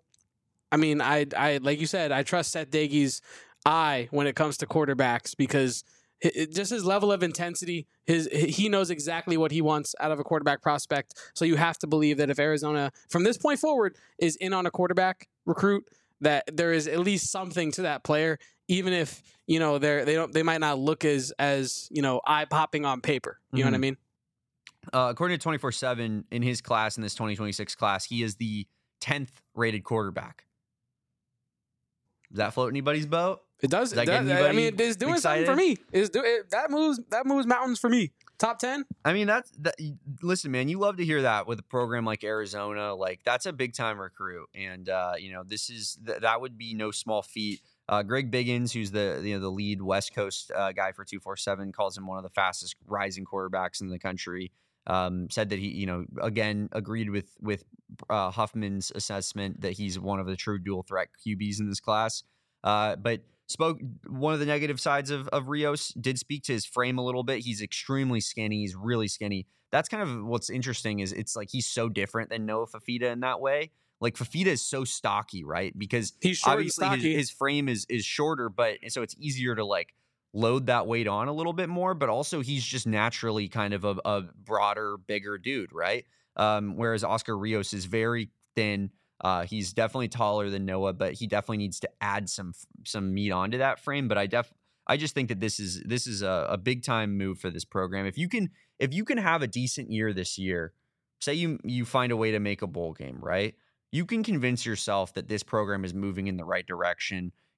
I like you said, I trust Seth Doege's eye when it comes to quarterbacks because just his level of intensity, he knows exactly what he wants out of a quarterback prospect. So you have to believe that if Arizona, from this point forward, is in on a quarterback recruit, that there is at least something to that player, even if they might not look as eye popping on paper. You know what I mean? According to 24/7, in his class, in this 2026 class, he is the 10th rated quarterback. Does that float anybody's boat? It does. It is doing something for me. That moves mountains for me. Top 10. I mean, listen, man, you love to hear that with a program like Arizona. Like, that's a big time recruit, and that would be no small feat. Greg Biggins, who's the lead West Coast guy for 247, calls him one of the fastest rising quarterbacks in the country. Said that he, again agreed with Huffman's assessment that he's one of the true dual threat QBs in this class. But spoke one of the negative sides of Rios, did speak to his frame a little bit. He's extremely skinny. He's really skinny. That's kind of what's interesting is it's like he's so different than Noah Fifita in that way. Like Fifita is so stocky, right? Because he's short obviously and stocky. His frame is shorter, but so it's easier to like load that weight on a little bit more, but also he's just naturally kind of a broader, bigger dude, right? Whereas Oscar Rios is very thin. He's definitely taller than Noah, but he definitely needs to add some meat onto that frame. But I just think that this is a big time move for this program. If you can have a decent year this year, say you find a way to make a bowl game, right? You can convince yourself that this program is moving in the right direction,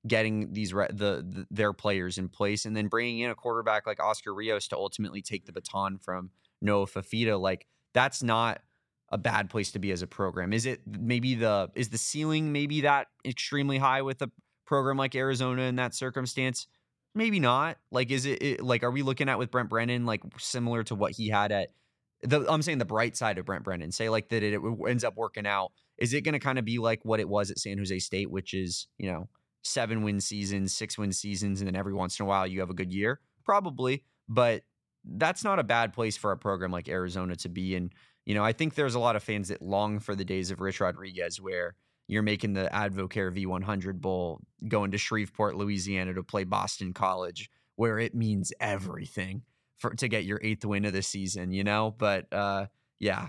getting their players in place, and then bringing in a quarterback like Oscar Rios to ultimately take the baton from Noah Fifita. Like, that's not a bad place to be as a program. Is the ceiling maybe that extremely high with a program like Arizona in that circumstance? Maybe not. Like, is it like, are we looking at with Brent Brennan, like similar to what he had at I'm saying the bright side of Brent Brennan, say like that it ends up working out. Is it going to kind of be like what it was at San Jose State, which is, 7-win seasons, 6-win seasons, and then every once in a while you have a good year? Probably, but that's not a bad place for a program like Arizona to be. And, I think there's a lot of fans that long for the days of Rich Rodriguez where you're making the Advocare V100 Bowl, going to Shreveport, Louisiana to play Boston College, where it means everything to get your 8th win of the season, But yeah,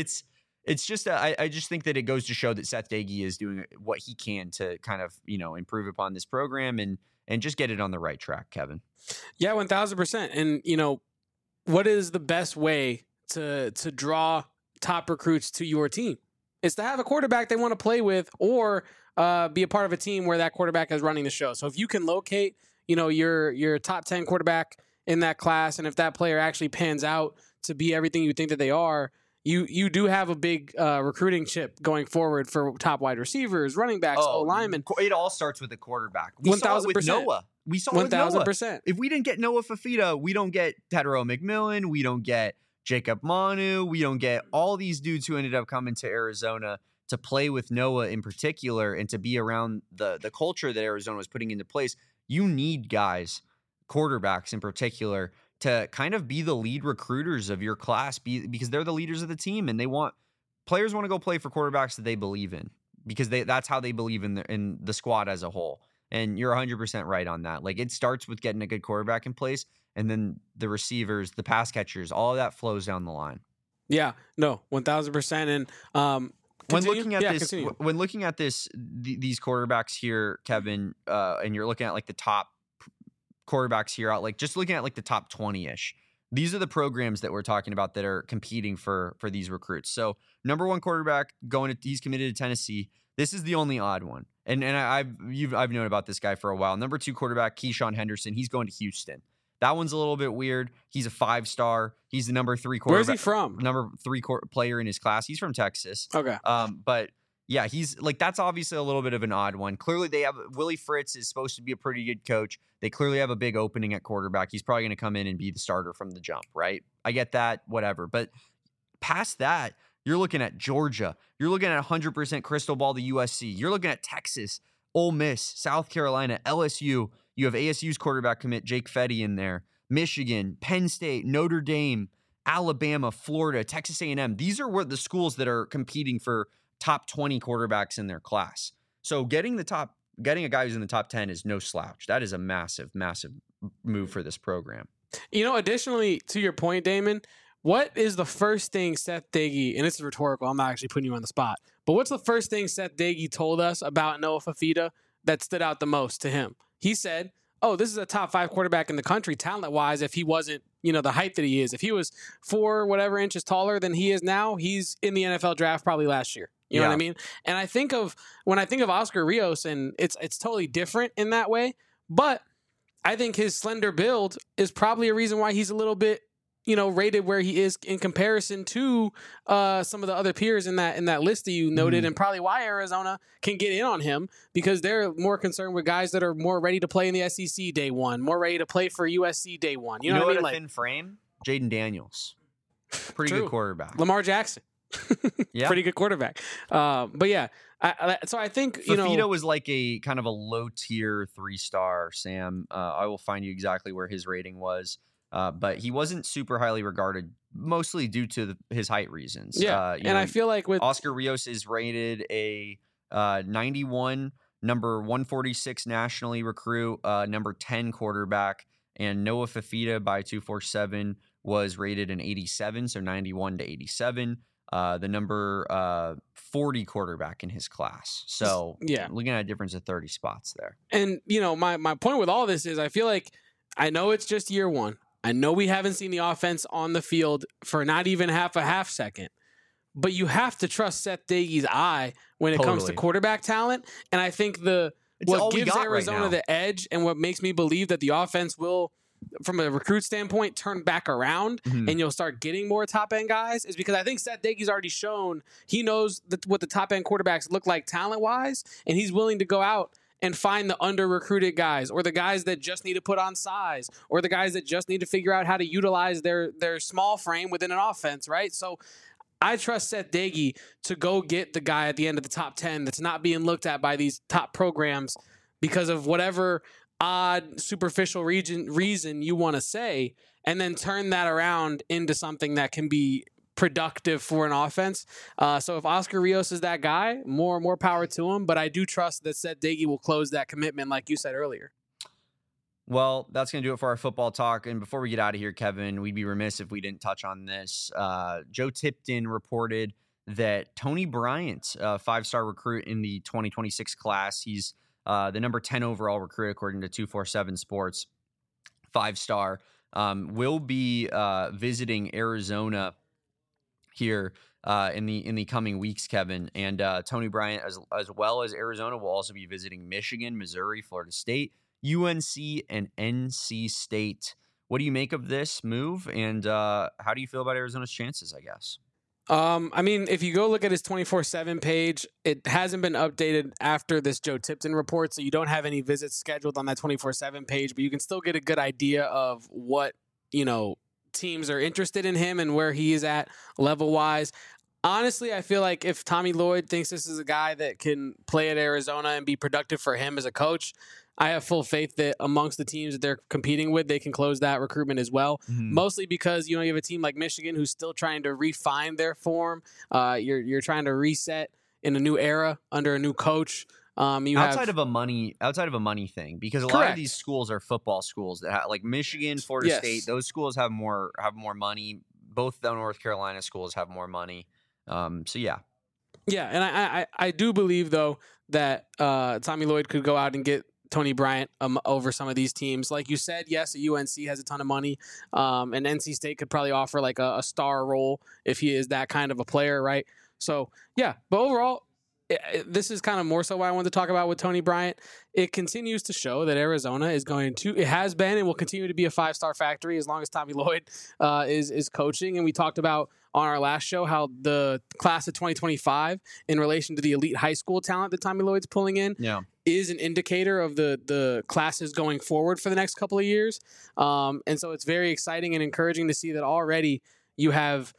it's just I just think that it goes to show that Seth Doege is doing what he can to kind of improve upon this program and just get it on the right track, Kevin. Yeah, 1,000%. And what is the best way to draw top recruits to your team? It's to have a quarterback they want to play with, or be a part of a team where that quarterback is running the show. So if you can locate, your top 10 quarterback in that class, and if that player actually pans out to be everything you think that they are, you do have a big recruiting chip going forward for top wide receivers, running backs, O-linemen. It all starts with the quarterback. We saw it with Noah. We saw it with Noah. 1,000%. If we didn't get Noah Fifita, we don't get Tedero McMillan. We don't get Jacob Manu. We don't get all these dudes who ended up coming to Arizona to play with Noah in particular and to be around the culture that Arizona was putting into place. You need guys, quarterbacks in particular, to kind of be the lead recruiters of your class, because they're the leaders of the team, and players want to go play for quarterbacks that they believe in, because that's how they believe in the squad as a whole. And you're 100% right on that. Like, it starts with getting a good quarterback in place, and then the receivers, the pass catchers, all of that flows down the line. Yeah, no, 1,000%. And when looking at these quarterbacks here, Kevin, and you're looking at like the top quarterbacks here out, like just looking at like the top 20-ish, these are the programs that we're talking about that are competing for these recruits. So number 1 quarterback he's committed to Tennessee. This is the only odd one. And I've known about this guy for a while. Number 2 quarterback, Keyshawn Henderson. He's going to Houston. That one's a little bit weird. He's a 5-star. He's the number 3 quarterback. Where's he from? Number 3 player in his class. He's from Texas. Okay. But yeah, he's like, that's obviously a little bit of an odd one. Clearly they have Willie Fritz is supposed to be a pretty good coach. They clearly have a big opening at quarterback. He's probably going to come in and be the starter from the jump, right? I get that, whatever. But past that, you're looking at Georgia. You're looking at 100% crystal ball to USC. You're looking at Texas, Ole Miss, South Carolina, LSU. You have ASU's quarterback commit, Jake Fetty, in there. Michigan, Penn State, Notre Dame, Alabama, Florida, Texas A&M. These are the schools that are competing for top 20 quarterbacks in their class. So getting a guy who's in the top 10 is no slouch. That is a massive, massive move for this program. Additionally, to your point, Damon, what is the first thing Seth Doege, and this is rhetorical, I'm not actually putting you on the spot, but what's the first thing Seth Doege told us about Noah Fifita that stood out the most to him? He said, this is a top 5 quarterback in the country talent-wise if he wasn't, the height that he is. If he was 4 whatever inches taller than he is now, he's in the NFL draft probably last year. You know what I mean? And when I think of Oscar Rios, and it's totally different in that way, but I think his slender build is probably a reason why he's a little bit, rated where he is in comparison to some of the other peers in that list that you noted, and probably why Arizona can get in on him, because they're more concerned with guys that are more ready to play in the SEC day one, more ready to play for USC day one. You know what I mean? A thin frame? Jaden Daniels. Pretty good quarterback. Lamar Jackson. Yeah. Pretty good quarterback. But yeah, so I think, Fifita was like a kind of a low tier 3-star, Sam. I will find you exactly where his rating was. But he wasn't super highly regarded, mostly due to his height reasons. Yeah, I feel like with Oscar Rios is rated a 91, number 146 nationally recruit, number 10 quarterback, and Noah Fifita by 247 was rated an 87, so 91 to 87. The number 40 quarterback in his class. So yeah, looking at a difference of 30 spots there. And my point with all this is I feel like I know it's just year 1. I know we haven't seen the offense on the field for not even half second, but you have to trust Seth Doege's eye when it comes to quarterback talent. And I think the what gives Arizona the edge and what makes me believe that the offense will, from a recruit standpoint, turn back around and you'll start getting more top-end guys is because I think Seth Daigie's already shown he knows what the top-end quarterbacks look like talent-wise, and he's willing to go out and find the under-recruited guys or the guys that just need to put on size or the guys that just need to figure out how to utilize their small frame within an offense, right? So I trust Seth Daigie to go get the guy at the end of the top 10 that's not being looked at by these top programs because of whatever odd, superficial reason you want to say, and then turn that around into something that can be productive for an offense. So if Oscar Rios is that guy, more power to him. But I do trust that Seth Daiggie will close that commitment, like you said earlier. Well, that's going to do it for our football talk. And before we get out of here, Kevin, we'd be remiss if we didn't touch on this. Joe Tipton reported that Tony Bryant, a 5-star recruit in the 2026 class, he's the number 10 overall recruit according to 247 Sports, 5-star, will be visiting Arizona here in the coming weeks, Kevin. And Tony Bryant, as well as Arizona, will also be visiting Michigan, Missouri, Florida State, UNC, and NC State. What do you make of this move? And how do you feel about Arizona's chances, I guess? I mean, if you go look at his 24/7 page, it hasn't been updated after this Joe Tipton report, so you don't have any visits scheduled on that 24/7 page, but you can still get a good idea of what, teams are interested in him and where he is at level-wise. Honestly, I feel like if Tommy Lloyd thinks this is a guy that can play at Arizona and be productive for him as a coach, I have full faith that amongst the teams that they're competing with, they can close that recruitment as well. Mostly because, you have a team like Michigan who's still trying to refine their form. You're trying to reset in a new era under a new coach. Outside of a money thing, because a lot of these schools are football schools that like Michigan, Florida State, those schools have more money. Both the North Carolina schools have more money. So yeah. Yeah, and I do believe though that Tommy Lloyd could go out and get Tony Bryant over some of these teams. Like you said, yes, UNC has a ton of money, and NC State could probably offer like a star role if he is that kind of a player, right? So yeah, but overall, this is kind of more so what I wanted to talk about with Tony Bryant. It continues to show that Arizona it has been and will continue to be a 5-star factory as long as Tommy Lloyd is coaching. And we talked about on our last show how the class of 2025 in relation to the elite high school talent that Tommy Lloyd's pulling in is an indicator of the classes going forward for the next couple of years. And so it's very exciting and encouraging to see that already you have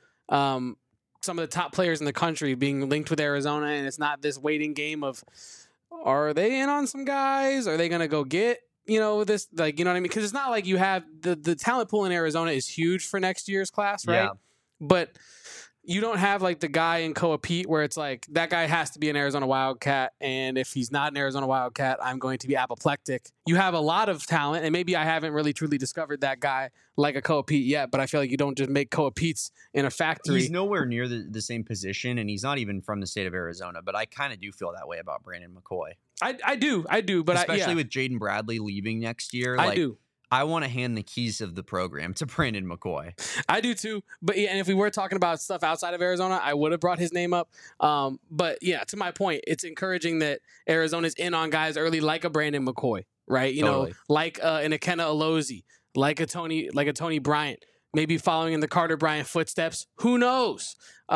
some of the top players in the country being linked with Arizona, and it's not this waiting game of, are they in on some guys? Are they going to go get, this, like, you know what I mean? Because it's not like you have the talent pool in Arizona is huge for next year's class, right? Yeah. But you don't have like the guy in Coa-Pete where it's like that guy has to be an Arizona Wildcat, and if he's not an Arizona Wildcat, I'm going to be apoplectic. You have a lot of talent, and maybe I haven't really truly discovered that guy like a Coa-Pete yet, but I feel like you don't just make Coa-Petes in a factory. He's nowhere near the same position, and he's not even from the state of Arizona, but I kind of do feel that way about Brandon McCoy. I do, but especially with Jaden Bradley leaving next year. I do. I want to hand the keys of the program to Brandon McCoy. I do too. But yeah, and if we were talking about stuff outside of Arizona, I would have brought his name up. But yeah, to my point, it's encouraging that Arizona's in on guys early like a Brandon McCoy, right? You know, like an Ikenna Alozie, like a Tony Bryant, maybe following in the Carter Bryant footsteps. Who knows?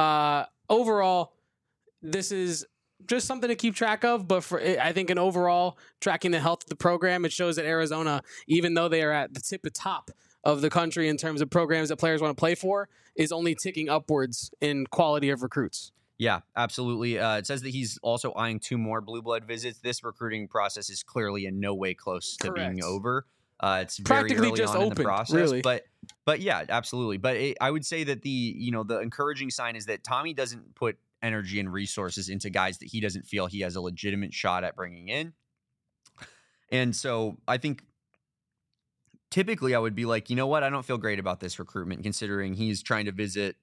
Overall, this is just something to keep track of, but I think in overall tracking the health of the program, it shows that Arizona, even though they are at the top of the country in terms of programs that players want to play for, is only ticking upwards in quality of recruits. Yeah, absolutely. It says that he's also eyeing 2 more blue blood visits. This recruiting process is clearly in no way close to being over. It's very practically early just on opened, in the process, really. But yeah, absolutely. But I would say that the encouraging sign is that Tommy doesn't put energy and resources into guys that he doesn't feel he has a legitimate shot at bringing in. And so I think typically I would be like, you know what? I don't feel great about this recruitment considering he's trying to visit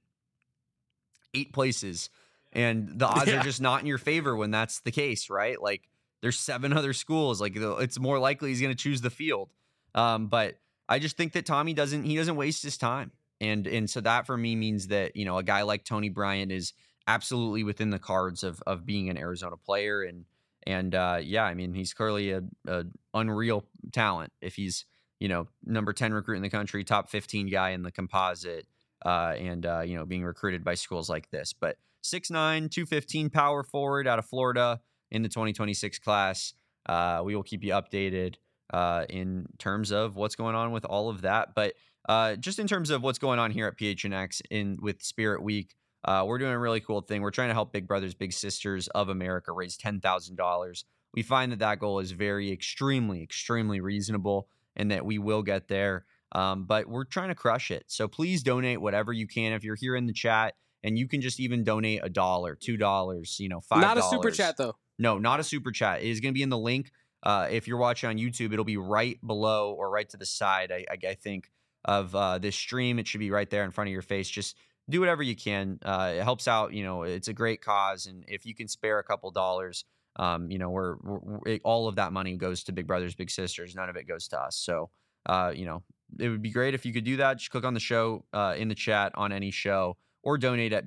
8 places and the odds are just not in your favor when that's the case, right? Like there's 7 other schools. Like it's more likely he's going to choose the field. But I just think that Tommy doesn't waste his time. And so that for me means that, a guy like Tony Bryant is absolutely within the cards of being an Arizona player. And yeah, I mean, he's clearly a unreal talent. If he's, number 10 recruit in the country, top 15 guy in the composite, and being recruited by schools like this. But 6'9", 215 power forward out of Florida in the 2026 class. We will keep you updated in terms of what's going on with all of that. But just in terms of what's going on here at PHNX with Spirit Week, we're doing a really cool thing. We're trying to help Big Brothers Big Sisters of America raise $10,000. We find that goal is extremely reasonable, and that we will get there. But we're trying to crush it. So please donate whatever you can. If you're here in the chat, and you can just even donate $1, $2, $5. Not a super chat though. No, not a super chat. It is going to be in the link. If you're watching on YouTube, it'll be right below or right to the side, I think, of this stream. It should be right there in front of your face. Just do whatever you can. It helps out. It's a great cause. And if you can spare a couple dollars, all of that money goes to Big Brothers Big Sisters. None of it goes to us. So, it would be great if you could do that. Just click on the show in the chat on any show, or donate at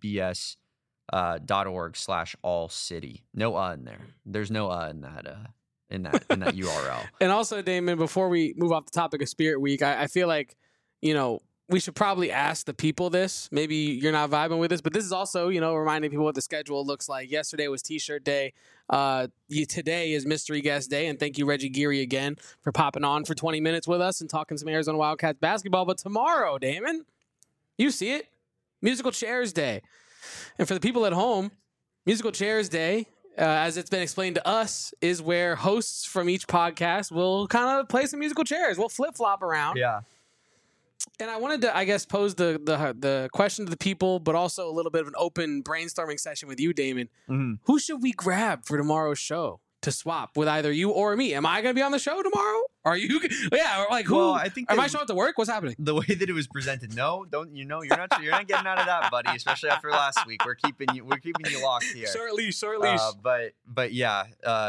bbbs.org/allcity. No in there. There's no in that URL. And also, Damon, before we move off the topic of Spirit Week, I feel like, we should probably ask the people this. Maybe you're not vibing with this, but this is also, reminding people what the schedule looks like. Yesterday was T-shirt day. Today is Mystery Guest Day, and thank you, Reggie Geary, again for popping on for 20 minutes with us and talking some Arizona Wildcats basketball. But tomorrow, Damon, you see it, Musical Chairs Day. And for the people at home, Musical Chairs Day, as it's been explained to us, is where hosts from each podcast will kind of play some musical chairs. We'll flip-flop around. Yeah. And I wanted to, I guess, pose the question to the people, but also a little bit of an open brainstorming session with you, Damon. Mm-hmm. Who should we grab for tomorrow's show to swap with either you or me? Am I going to be on the show tomorrow? Are you? Yeah, like who? Well, I think am I showing up to work? What's happening? The way that it was presented, you're not getting out of that, buddy. Especially after last week, we're keeping you locked here. Short leash. But yeah,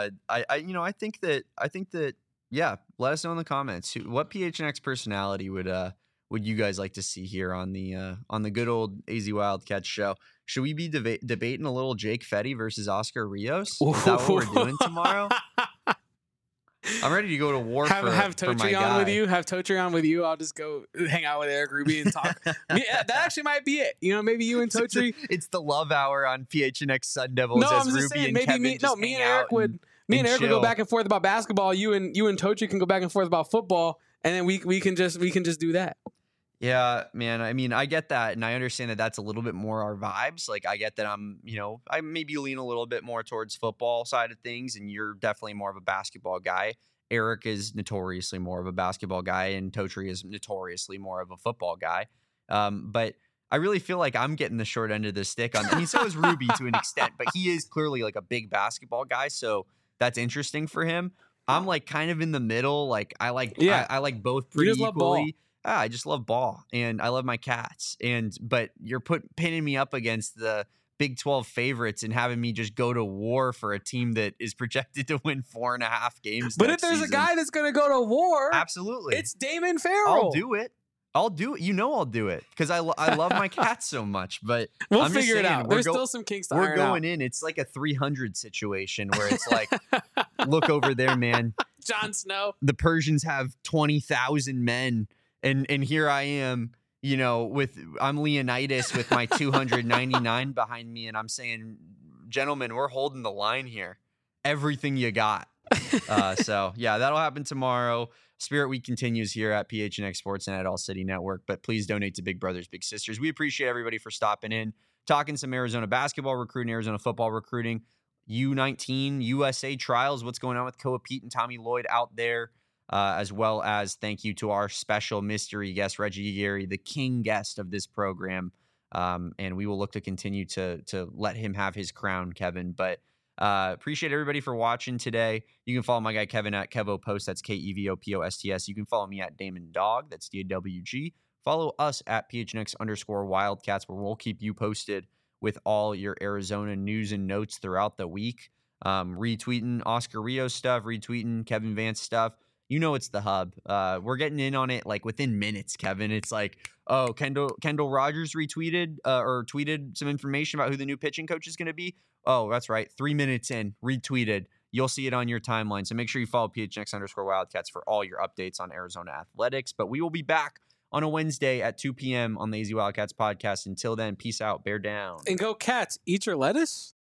I think that yeah. Let us know in the comments what PHNX personality would you guys like to see here on the good old AZ Wildcats show? Should we be debating a little Jake Fetty versus Oscar Rios? Is that what we're doing tomorrow? I'm ready to go to war. Have for my Totri on guy. with you. Have Totri on with you. I'll just go hang out with Eric Ruby and talk. Yeah, that actually might be it. Maybe you and Totri. It's the love hour on PHNX Sun Devils. No, as I'm just Ruby saying. and Maybe Kevin me. No, just me hang and Eric out would. Me and Eric would chill. go back and forth about basketball. You and Totri can go back and forth about football, and then we can just do that. Yeah, man. I mean, I get that, and I understand that that's a little bit more our vibes. Like, I get that I maybe lean a little bit more towards football side of things, and you're definitely more of a basketball guy. Eric is notoriously more of a basketball guy, and Totri is notoriously more of a football guy. But I really feel like I'm getting the short end of the stick on. I mean, so is Ruby to an extent, but he is clearly like a big basketball guy, so that's interesting for him. I'm like kind of in the middle. Like I like both pretty just love ball. equally. I just love ball, and I love my Cats. But you're pinning me up against the Big 12 favorites and having me just go to war for a team that is projected to win 4.5 games. But if next there's season. a guy that's going to go to war, absolutely, it's Damon Farrell. I'll do it. I'll do it. I'll do it because I love my Cats so much. But we'll I'm figure just saying, it out. There's still some kinks to We're iron going out. in. It's like a 300 situation where it's like, look over there, man. Jon Snow. The Persians have 20,000 men, and here I am. I'm Leonidas with my 299 behind me, and I'm saying, gentlemen, we're holding the line here. Everything you got. So yeah, that'll happen tomorrow. Spirit Week continues here at PHNX Sportsnet at All City Network, but please donate to Big Brothers Big Sisters. We appreciate everybody for stopping in, talking some Arizona basketball recruiting, Arizona football recruiting, U19 USA trials, what's going on with Koa Pete and Tommy Lloyd out there, as well as thank you to our special mystery guest, Reggie Geary, the king guest of this program. And we will look to continue to let him have his crown, Kevin. But appreciate everybody for watching today. You can follow my guy Kevin at KevoPost. That's KEVOPOSTS. You can follow me at Damon Dog. That's DAWG. Follow us at PHNX_Wildcats, where we'll keep you posted with all your Arizona news and notes throughout the week. Retweeting Oscar Rios stuff, retweeting Kevin Vance stuff. It's the hub. We're getting in on it like within minutes, Kevin. It's like, oh, Kendall Rogers retweeted or tweeted some information about who the new pitching coach is going to be. Oh, that's right. 3 minutes in, retweeted. you'll see it on your timeline. So make sure you follow PHNX_Wildcats for all your updates on Arizona athletics. But we will be back on a Wednesday at 2 p.m. on the AZ Wildcats podcast. Until then, peace out, bear down. And go Cats, eat your lettuce.